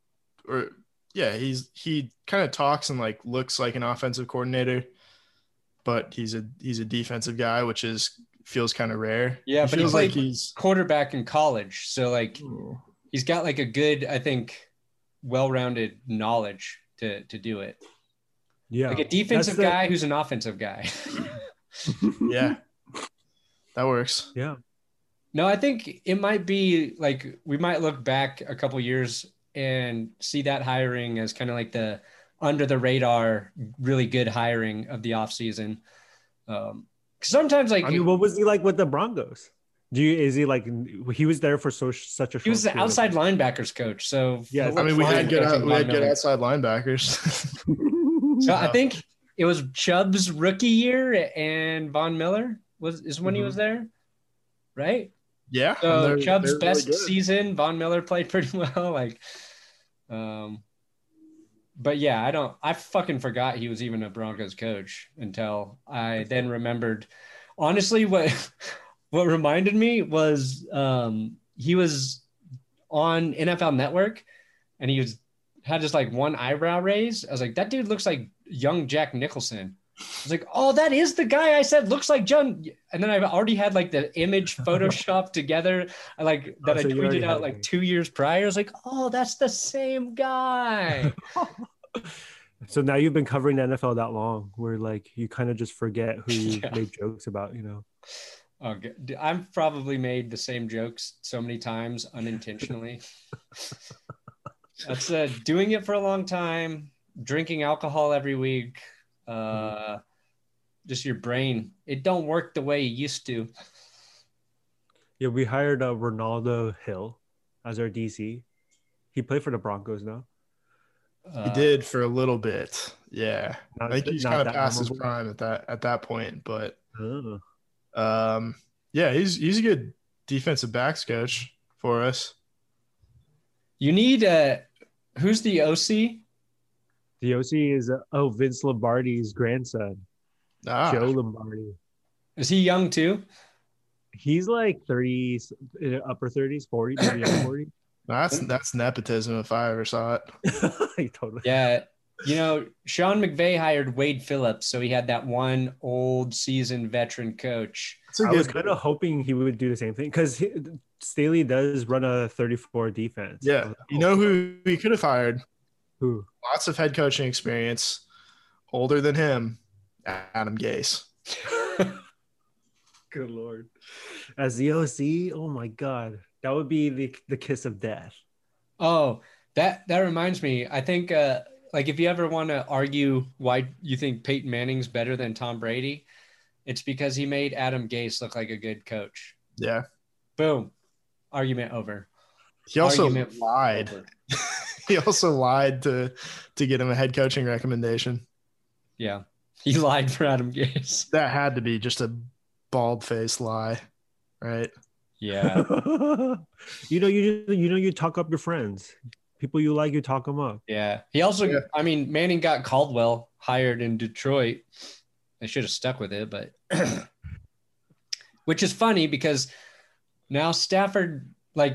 he kind of talks and like looks like an offensive coordinator, but he's a defensive guy, which feels kind of rare. Yeah, but he's like he's quarterback in college, so like he's got like a good, I think, well-rounded knowledge to do it. Yeah, like a defensive guy who's an offensive guy. Yeah, that works. Yeah. No, I think it might be like we might look back a couple years and see that hiring as kind of like the under the radar, really good hiring of the offseason. Sometimes like, I mean, what was he like with the Broncos? Is he like, he was there for such a short he was the outside linebackers coach. So yeah, I mean, we had good outside linebackers. So I think it was Chubb's rookie year and Von Miller is when he was there. Right. Yeah. So Chubb's best really season, Von Miller played pretty well. But yeah, I fucking forgot he was even a Broncos coach until I then remembered. Honestly, what reminded me was he was on NFL Network and he had just like one eyebrow raise. I was like, that dude looks like young Jack Nicholson. was like, oh, that is the guy I said looks like John. And then I've already had like the image photoshopped together, like that I So you already tweeted had out like it. 2 years prior. I was like, oh, that's the same guy. So now you've been covering the NFL that long, where like you kind of just forget who you Yeah. made jokes about, you know? Okay. I've probably made the same jokes so many times unintentionally. That's doing it for a long time, drinking alcohol every week. Just your brain. It don't work the way it used to. Yeah, we hired Ronaldo Hill as our DC. He played for the Broncos now. He did for a little bit. Yeah. I think he's kind of that past his memorable. prime at that point, but Oh. yeah, he's a good defensive backs coach for us. You need who's the OC? The OC is Vince Lombardi's grandson, Joe Lombardi. Is he young too? He's like 30, upper 30s, 40, maybe upper 40. That's nepotism if I ever saw it. Totally. Yeah. You know, Sean McVay hired Wade Phillips, so he had that one old seasoned veteran coach. I was kind of hoping he would do the same thing because Staley does run a 34 defense. Yeah. You know who he could have hired? Who? Lots of head coaching experience, older than him, Adam Gase. Good Lord. As the OC, oh my God. That would be the kiss of death. Oh, that reminds me. I think like if you ever want to argue why you think Peyton Manning's better than Tom Brady, it's because he made Adam Gase look like a good coach. Yeah. Boom. Argument over. He also lied. He also lied to get him a head coaching recommendation. Yeah. He lied for Adam Gase. That had to be just a bald-faced lie, right? Yeah. you talk up your friends. People you like, you talk them up. Yeah. He also, I mean, Manning got Caldwell hired in Detroit. They should have stuck with it, but which is funny because now Stafford, like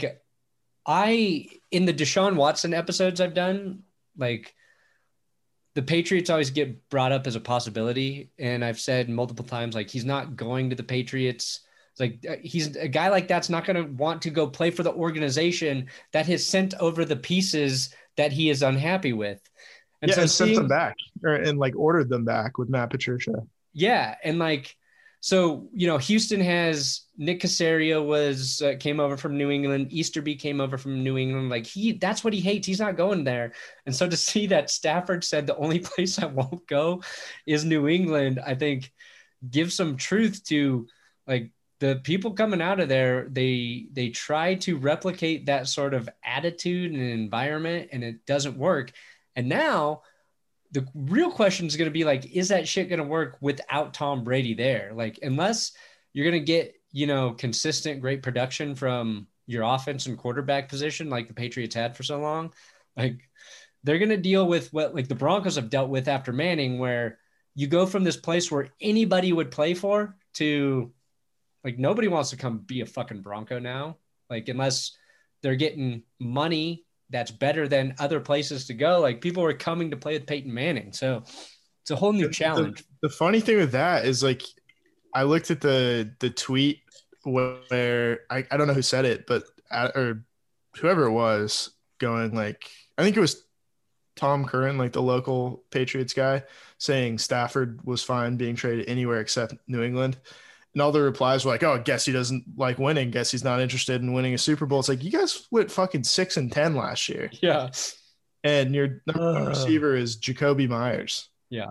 in the Deshaun Watson episodes I've done, like the Patriots always get brought up as a possibility. And I've said multiple times, like, he's not going to the Patriots. It's like he's a guy like that's not going to want to go play for the organization that has sent over the pieces that he is unhappy with. And so sent them back and like ordered them back with Matt Patricia. Yeah. And like, so, you know, Houston has Nick Caserio came over from New England. Easterby came over from New England. Like that's what he hates. He's not going there. And so to see that Stafford said the only place I won't go is New England, I think gives some truth to like the people coming out of there. They try to replicate that sort of attitude and environment and it doesn't work. And now the real question is going to be like, is that shit going to work without Tom Brady there? Like, unless you're going to get, you know, consistent, great production from your offense and quarterback position, like the Patriots had for so long, like they're going to deal with what like the Broncos have dealt with after Manning, where you go from this place where anybody would play for to like, nobody wants to come be a fucking Bronco now. Like, unless they're getting money that's better than other places to go. Like people are coming to play with Peyton Manning. So it's a whole new challenge. The funny thing with that is like, I looked at the tweet where I don't know who said it, but or whoever it was going like, I think it was Tom Curran, like the local Patriots guy, saying Stafford was fine being traded anywhere except New England. And all the replies were like, oh, guess he doesn't like winning. Guess he's not interested in winning a Super Bowl. It's like, you guys went fucking 6-10 last year. Yeah. And your number one receiver is Jacoby Myers. Yeah.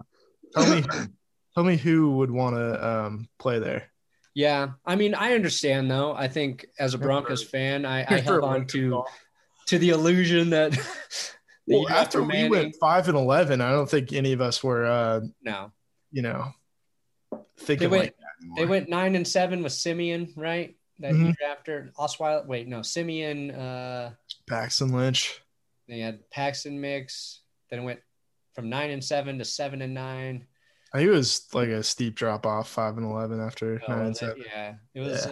Tell me who would want to play there. Yeah. I mean, I understand though. I think as a Broncos fan, I held on to the illusion that well, after we went 5-11, I don't think any of us were, no, you know, thinking like that. They went 9-7 with Simeon, right? That year after Osweiler. Wait, no, Simeon. Paxton Lynch. They had Paxton mix. Then it went from 9-7 to 7-9. I think it was like a steep drop off 5-11 after 9-7. Yeah, it was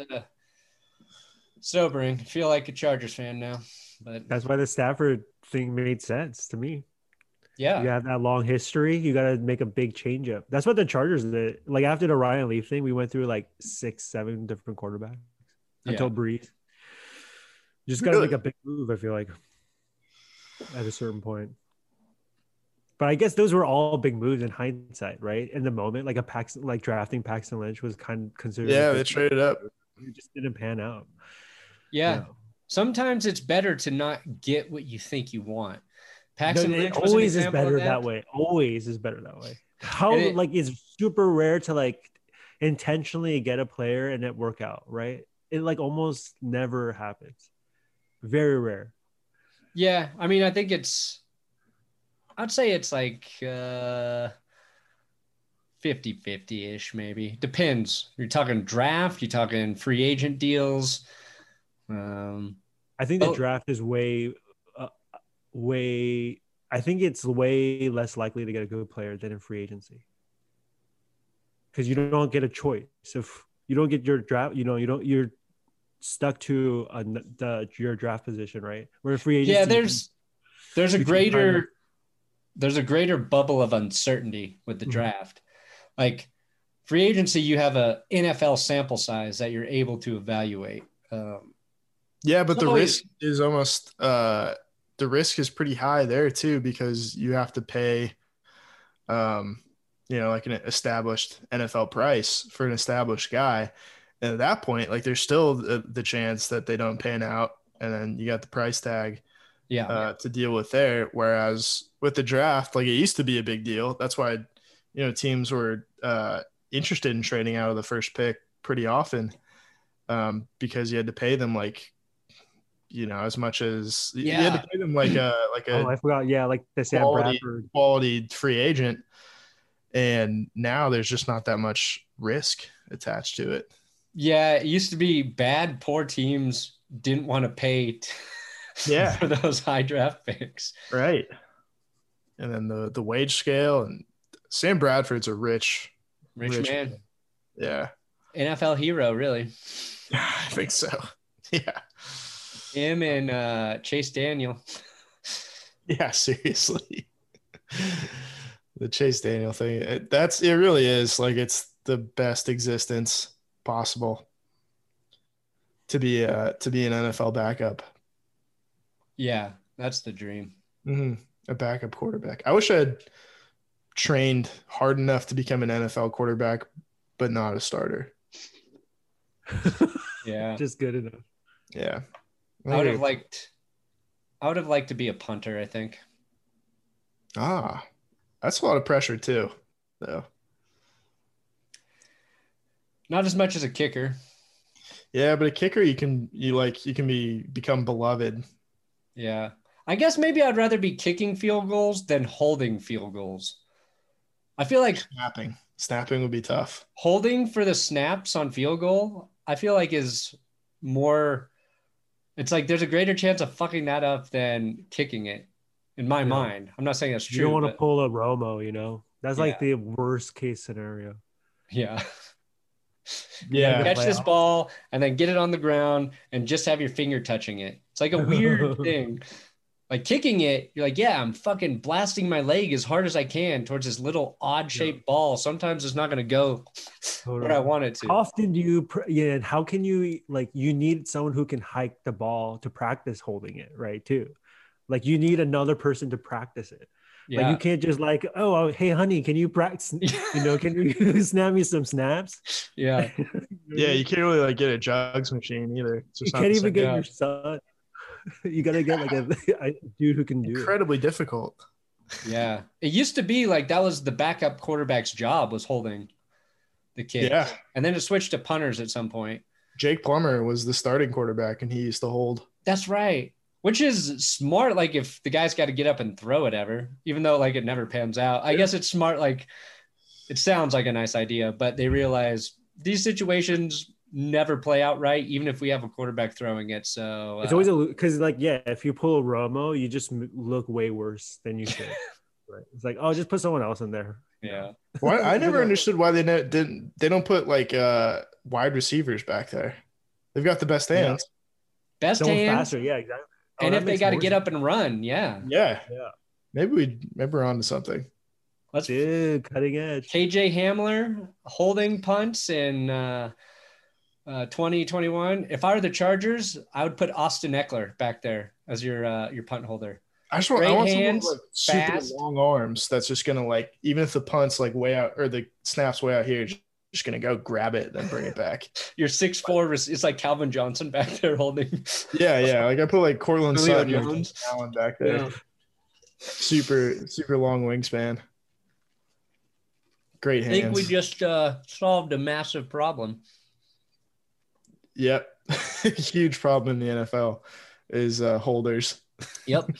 sobering. I feel like a Chargers fan now, but that's why the Stafford thing made sense to me. Yeah. You have that long history. You got to make a big change up. That's what the Chargers did. Like after the Ryan Leaf thing, we went through like 6-7 different quarterbacks until Breeze. You just got to make a big move, I feel like, at a certain point. But I guess those were all big moves in hindsight, right? In the moment, like drafting Paxton Lynch was kind of considered. Yeah, they traded up. It just didn't pan out. Yeah. Sometimes it's better to not get what you think you want. Paxton Lynch always is better that way. Always is better that way. It's super rare to like intentionally get a player and it work out, right? It like almost never happens. Very rare. Yeah, I mean, I think I'd say it's like 50-50-ish maybe. Depends. You're talking draft, you're talking free agent deals. I think the draft is way I think it's way less likely to get a good player than in free agency. Because you don't get a choice. If you don't get your draft, you're stuck to your draft position, right? Where free agency, there's a greater bubble of uncertainty with the draft. Like free agency, you have a NFL sample size that you're able to evaluate. Yeah, but the risk is almost the risk is pretty high there too, because you have to pay like an established NFL price for an established guy. And at that point, like there's still the chance that they don't pan out, and then you got the price tag to deal with there. Whereas with the draft, like it used to be a big deal. That's why, teams were interested in trading out of the first pick pretty often, because you had to pay them like, as much as you had to pay them like a I forgot. Yeah, like the Sam Bradford quality free agent. And now there's just not that much risk attached to it. Yeah, it used to be bad, poor teams didn't want to pay for those high draft picks. Right. And then the wage scale, and Sam Bradford's a rich man. Yeah. NFL hero, really. I think so. Yeah. Him and Chase Daniel. Yeah, seriously. The Chase Daniel thing, it really is like it's the best existence possible to be an NFL backup. Yeah, that's the dream. Mm-hmm. A backup quarterback. I wish I had trained hard enough to become an NFL quarterback, but not a starter. Yeah, just good enough. Yeah, I would have liked to be a punter, I think. That's a lot of pressure too, though. Not as much as a kicker. Yeah, but a kicker you can become beloved. Yeah. I guess maybe I'd rather be kicking field goals than holding field goals. I feel like snapping would be tough. Holding for the snaps on field goal, I feel like is more, it's like there's a greater chance of fucking that up than kicking it in my mind. I'm not saying that's true. You don't want to pull a Romo, That's like the worst case scenario. Yeah. Yeah. Catch this ball and then get it on the ground and just have your finger touching it. It's like a weird thing. Like kicking it, you're like, yeah, I'm fucking blasting my leg as hard as I can towards this little odd shaped ball. Sometimes it's not going to go where I want it to. How often do you, and how can you, you need someone who can hike the ball to practice holding it, right? Too. Like you need another person to practice it. Yeah. Like you can't just hey honey, can you practice? Can you snap me some snaps? Yeah. Yeah, you can't really get a jugs machine either. It's just you can't even get your son. You gotta get a dude who can do incredibly difficult. Yeah. It used to be like that was the backup quarterback's job, was holding the kid. Yeah. And then it switched to punters at some point. Jake Plummer was the starting quarterback and he used to hold. That's right. Which is smart, like if the guy's got to get up and throw it ever, even though it never pans out. I guess it's smart, it sounds like a nice idea, but they realize these situations never play out right, even if we have a quarterback throwing it. So it's always because if you pull a Romo, you just look way worse than you should. Right? It's like, just put someone else in there. Yeah. Well, I never understood why they don't put wide receivers back there. They've got the best hands. Best hands. Faster. Yeah, exactly. And if they got to get up and run, yeah. Yeah. maybe we're on to something. Let's Dude, cutting edge. KJ Hamler holding punts in 2021. If I were the Chargers, I would put Austin Eckler back there as your punt holder. I Great want hands, someone with, like, super fast. long arms that's just gonna, like, even if the punt's like way out or the snap's way out here, just gonna go grab it then bring it back. Your 6'4", it's like Calvin Johnson back there holding. Yeah. Like I put like Cortland Julio Sutton or Jones. Allen back there. Yeah. Super long wingspan. Great I hands. think we just solved a massive problem. Yep. Huge problem in the NFL is holders. Yep.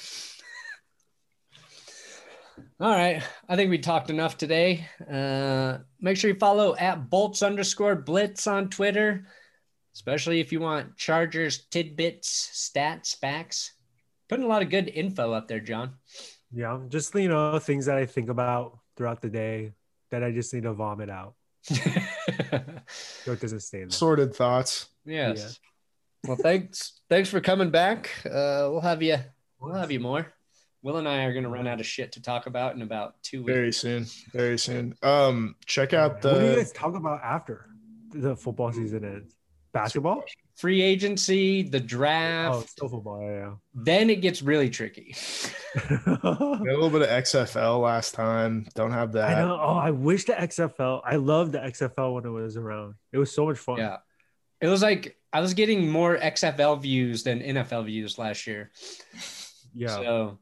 All right. I think we talked enough today. Make sure you follow at Bolts_Blitz on Twitter, especially if you want Chargers tidbits, stats, facts. Putting a lot of good info up there, John. Yeah, just things that I think about throughout the day that I just need to vomit out. So it doesn't stay in there. Sorted thoughts. Yes. Yeah. Well, thanks for coming back. We'll have you more. Will and I are going to run out of shit to talk about in about 2 weeks. Very soon. Check out What do you guys talk about after the football season ends? Basketball? Free agency, the draft. Oh, still football, yeah. Then it gets really tricky. We had a little bit of XFL last time. Don't have that. I know. Oh, I wish the XFL. I loved the XFL when it was around. It was so much fun. Yeah. It was like I was getting more XFL views than NFL views last year. Yeah. So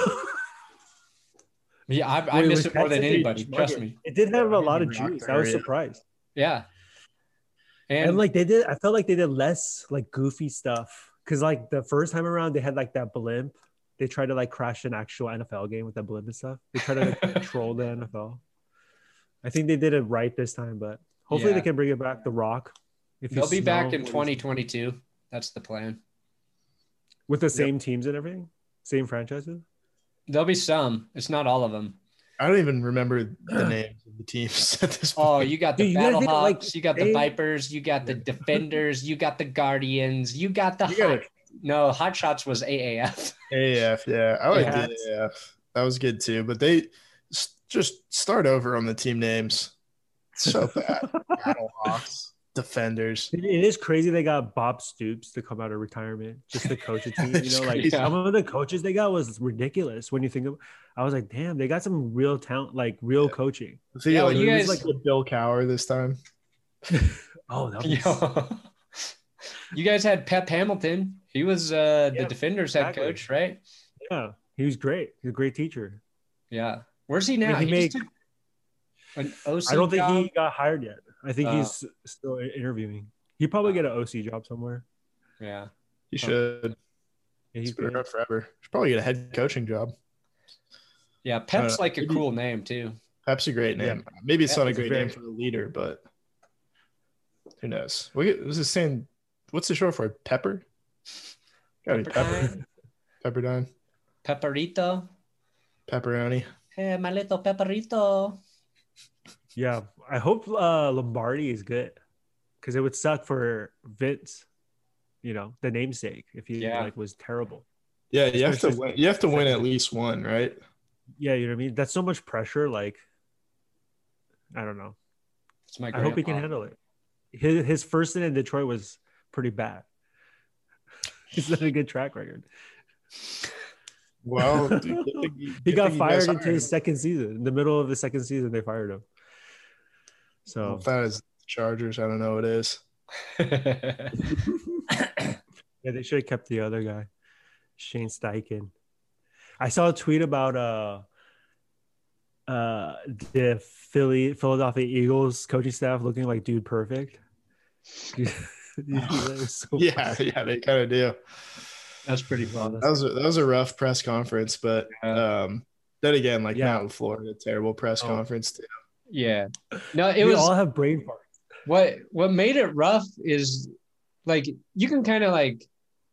yeah, I missed it more than anybody. Trust me. It did have a lot of juice. I was surprised. Yeah. And like I felt like they did less like goofy stuff. Cause like the first time around they had like that blimp. They tried to like crash an actual NFL game with that blimp and stuff. They tried to like troll the NFL. I think they did it right this time, but hopefully they can bring it back. The Rock. They'll be back in 2022. That's the plan. With the same teams and everything? Same franchises? There'll be some. It's not all of them. I don't even remember the names of the teams at this point. Oh, you got the Battlehawks, like, you got the Vipers, you got the Defenders, you got the Guardians, you got the Hot Shots was AAF. AAF, yeah. I like the AAF. That was good too. But they just start over on the team names. So bad. Battlehawks, Defenders. It is crazy they got Bob Stoops to come out of retirement just to coach a team. Some of the coaches they got was ridiculous when you think of. I was like, damn, they got some real talent, like real coaching. So yeah, you guys like with Bill Cowher this time. Oh, that was... You guys had Pep Hamilton. He was the Defenders head coach, right? Yeah, he was great. He's a great teacher. Yeah, where's he now? I mean, an OC I don't think job? he got hired yet. I think he's still interviewing. He'd probably get an OC job somewhere. Yeah, he should. Yeah, he's been around forever. Should probably get a head coaching job. Yeah, Pep's like a cool name too. Pep's a great name. Yeah. Maybe it's not a great name for the leader, but who knows? Was it saying? What's the short for? Pepper? Gotta be Pepper. Pepperdine. Pepperito. Pepperoni. Hey, my little Pepperito. Yeah, I hope Lombardi is good because it would suck for Vince, the namesake, if he was terrible. Yeah, you have to win. You have to win at least one, right? Yeah, you know what I mean. That's so much pressure. Like, I don't know. I hope he can handle it. His first in Detroit was pretty bad. He's not a good track record. Well, he got fired into his second season. In the middle of the second season, they fired him. So if that is Chargers, I don't know what it is. Yeah, they should have kept the other guy, Shane Steichen. I saw a tweet about the Philadelphia Eagles coaching staff looking like Dude Perfect. So yeah, they kind of do. That's pretty fun. That was a rough press conference, but then again, like Matt LaFleur had a terrible press conference too. Yeah, no, we all have brain farts. What made it rough is like you can kind of like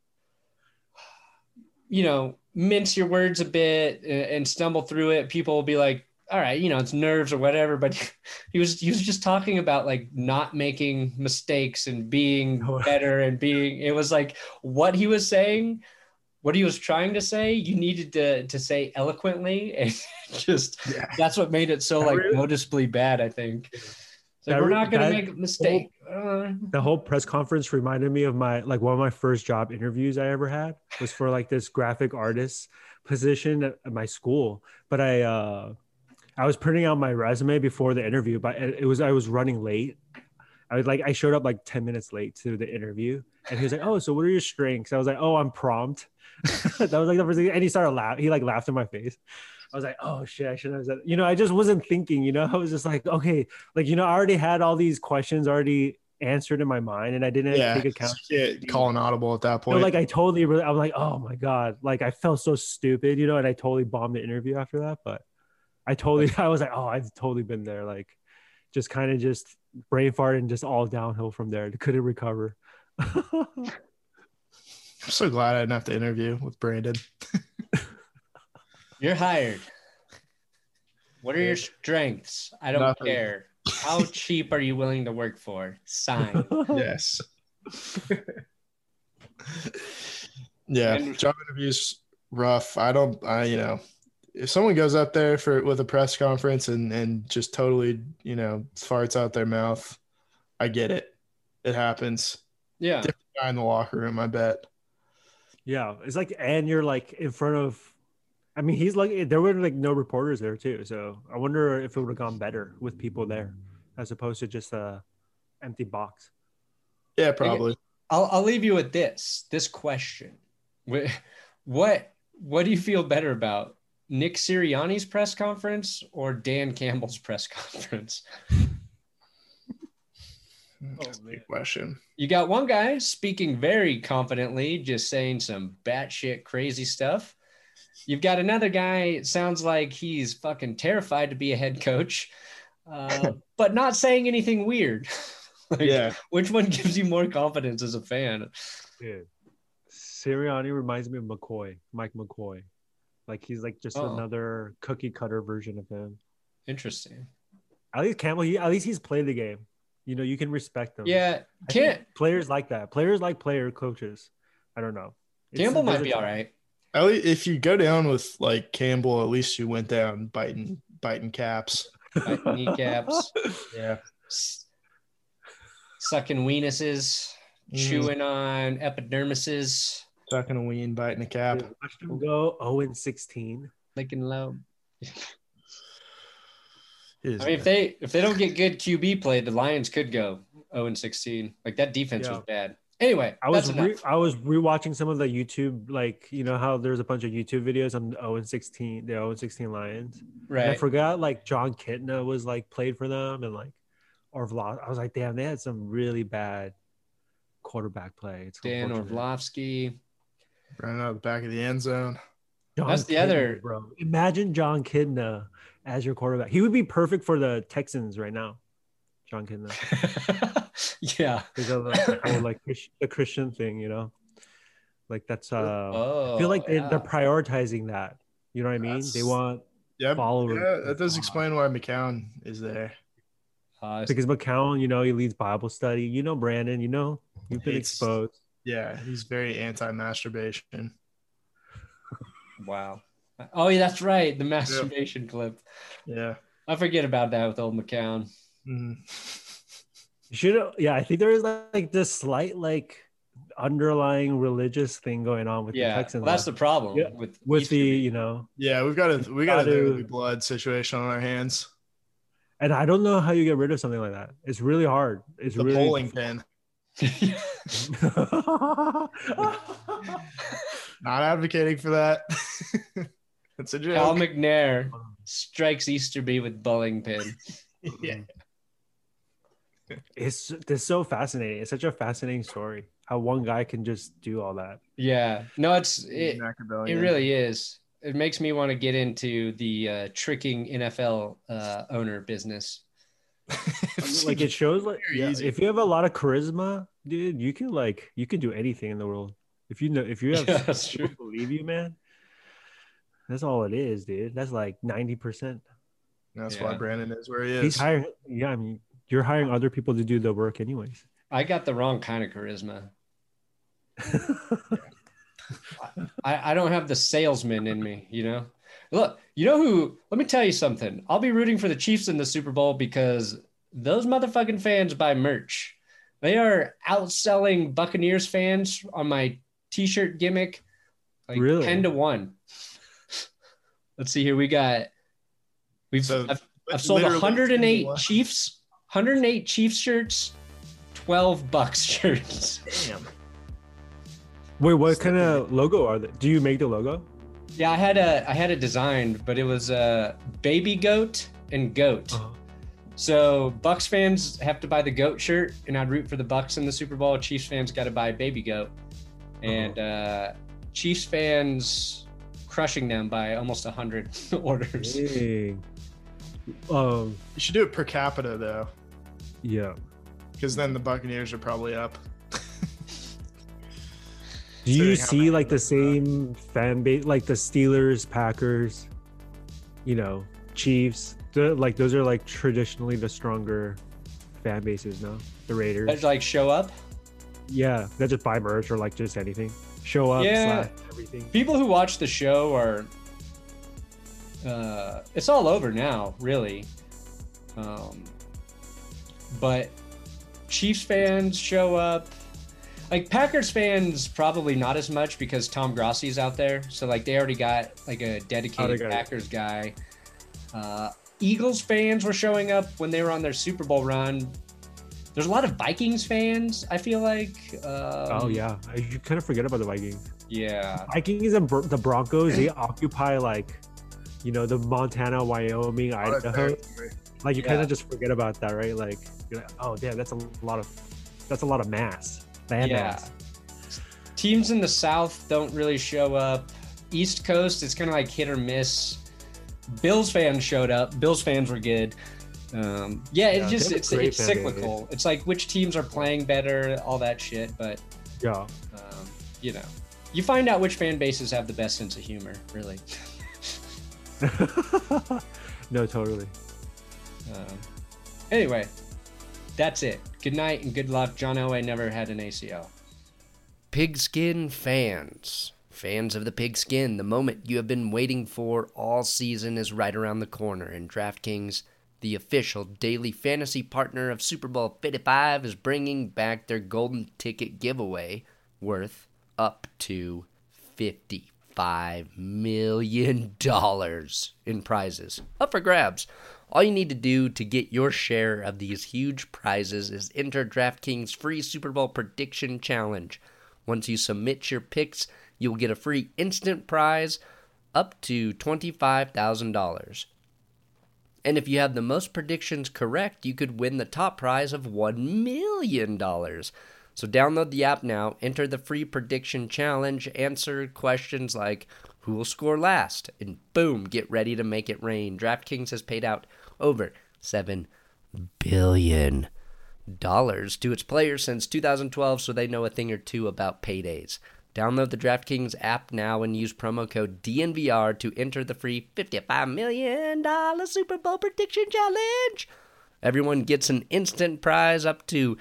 mince your words a bit and stumble through it. People will be like, all right, it's nerves or whatever. But he was just talking about like not making mistakes and being better and it was like what he was saying what he was trying to say, you needed to say eloquently, and just that's what made it so like noticeably bad, I think. So we're not gonna make a mistake. The whole press conference reminded me of one of my first job interviews I ever had was for like this graphic artist position at my school. But I was printing out my resume before the interview, but I was running late. I showed up like 10 minutes late to the interview, and he was like, "Oh, so what are your strengths?" I was like, "Oh, I'm prompt." That was like the first thing, and he started laughing. He like laughed in my face. I was like, "Oh shit, I shouldn't have said." I just wasn't thinking. I was just like, "Okay," I already had all these questions already answered in my mind, and I didn't take account. Call an audible at that point. I'm like, "Oh my god!" Like I felt so stupid, and I totally bombed the interview after that. But I was like, "Oh, I've totally been there." Like, just kind of just brain fart and just all downhill from there. Couldn't recover. I'm so glad I didn't have to interview with Brandon. You're hired. What are your strengths? I don't care. How cheap are you willing to work for? Sign. Yes. Job interviews rough. If someone goes up there with a press conference and just totally, farts out their mouth, I get it. It happens. Yeah. Different guy in the locker room, I bet. Yeah. It's like, and you're like in front of, he's like, there were like no reporters there too. So I wonder if it would have gone better with people there as opposed to just a empty box. Yeah, probably. I'll leave you with this question. What do you feel better about? Nick Sirianni's press conference or Dan Campbell's press conference? That's a big question. You got one guy speaking very confidently, just saying some batshit crazy stuff. You've got another guy, it sounds like he's fucking terrified to be a head coach, but not saying anything weird. Which one gives you more confidence as a fan? Dude, Sirianni reminds me of Mike McCoy. Like he's like just another cookie cutter version of him. Interesting. At least Campbell, at least he's played the game. You can respect them. Yeah, players like that. Players like player coaches. I don't know. Campbell might be all right. At least if you go down with like Campbell, at least you went down biting caps, biting kneecaps. Yeah, sucking weenuses, chewing on epidermises. Sucking a ween, biting a cap. Dude, watch them go 0-16. Licking low. If they don't get good QB play, the Lions could go 0-16. Like that defense was bad. Anyway, I was rewatching some of the YouTube, how there's a bunch of YouTube videos on the 0-16 Lions. Right. And I forgot John Kitna was played for them and Orlovsky. I was like, damn, they had some really bad quarterback play. It's Dan Orlovsky. Running out the back of the end zone. That's the other, bro. Imagine John Kitna as your quarterback. He would be perfect for the Texans right now. John Kitna. Yeah. Because of the Christian thing, that's I feel like they're prioritizing that. You know what I mean? They want followers. Yeah, that does explain why McCown is there. Because McCown, he leads Bible study. Brandon, you've been exposed. Yeah, he's very anti-masturbation. Wow. Oh, yeah, that's right. The masturbation clip. Yeah. I forget about that with old McCown. Mm-hmm. I think there is this slight underlying religious thing going on with the Texans. Well, that's the problem with the Yeah, we got a blood situation on our hands. And I don't know how you get rid of something like that. It's really hard. It's the really bowling pin. Not advocating for that. That's a joke. Cal McNair strikes Easterby with bowling pin. Yeah. It's so fascinating. It's such a fascinating story. How one guy can just do all that. Yeah. No, it really is. It makes me want to get into the tricking NFL owner business. It shows if you have a lot of charisma, dude, you can do anything in the world. If you have people believe you, man, that's all it is, dude. That's 90%. That's why Brandon is where he is. He's hiring. Yeah, you're hiring other people to do the work anyways. I got the wrong kind of charisma. I don't have the salesman in me, you know? Look, you know who? Let me tell you something. I'll be rooting for the Chiefs in the Super Bowl because those motherfucking fans buy merch. They are outselling Buccaneers fans on my t-shirt gimmick like Really? 10-1. Let's see here. I've sold 108 Chiefs shirts, 12 Bucks shirts. Damn. Wait, what kind of logo are they? Do you make the logo? Yeah, I had it designed, but it was baby goat and goat. Uh-huh. So Bucks fans have to buy the goat shirt, and I'd root for the Bucks in the Super Bowl. Chiefs fans got to buy baby goat, and Chiefs fans crushing them by almost 100 orders. Dang. You should do it per capita though, Yeah. because then the Buccaneers are probably up. Do you Considering how see many like the of them same fan base, like the Steelers, Packers, Chiefs? Like those are like traditionally the stronger fan bases, no? The Raiders. Guys like show up. Yeah, they just buy merch or like just anything. Show up, Yeah. slash everything. People who watch the show are it's all over now, really. But Chiefs fans show up. Like Packers fans probably not as much because Tom Grossi's out there. So like they already got like a dedicated Packers guy. Eagles fans were showing up when they were on their Super Bowl run. There's a lot of Vikings fans, I feel like. Oh yeah, you kind of forget about the Vikings. Yeah. Vikings and the Broncos, they occupy like, the Montana, Wyoming, Idaho. Like you kind of just forget about that, right? Like, you're like, oh damn, that's a lot of mass. Mass. Teams in the South don't really show up. East Coast, it's kind of like hit or miss. Bills fans showed up. Bills fans were good. It's cyclical. It's like which teams are playing better, all that shit. But yeah, you find out which fan bases have the best sense of humor, really. No, totally. Anyway, that's it. Good night and good luck. John Elway never had an ACL. Pigskin fans of the pigskin, the moment you have been waiting for all season is right around the corner, and DraftKings, the official daily fantasy partner of Super Bowl 55, is bringing back their golden ticket giveaway worth up to $55 million in prizes up for grabs. All you need to do to get your share of these huge prizes is enter DraftKings' free Super Bowl prediction challenge. Once you submit your picks, you'll get a free instant prize up to $25,000. And if you have the most predictions correct, you could win the top prize of $1 million. So download the app now, enter the free prediction challenge, answer questions like who will score last, and boom, get ready to make it rain. DraftKings has paid out over $7 billion to its players since 2012, so they know a thing or two about paydays. Download the DraftKings app now and use promo code DNVR to enter the free $55 million Super Bowl prediction challenge. Everyone gets an instant prize up to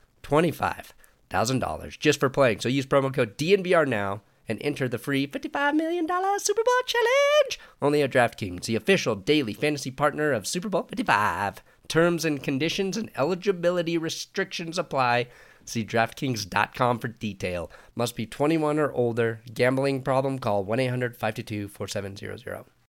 $25,000 just for playing. So use promo code DNVR now and enter the free $55 million Super Bowl challenge. Only at DraftKings, the official daily fantasy partner of Super Bowl 55. Terms and conditions and eligibility restrictions apply. See DraftKings.com for detail. Must be 21 or older. Gambling problem? Call 1-800-522-4700.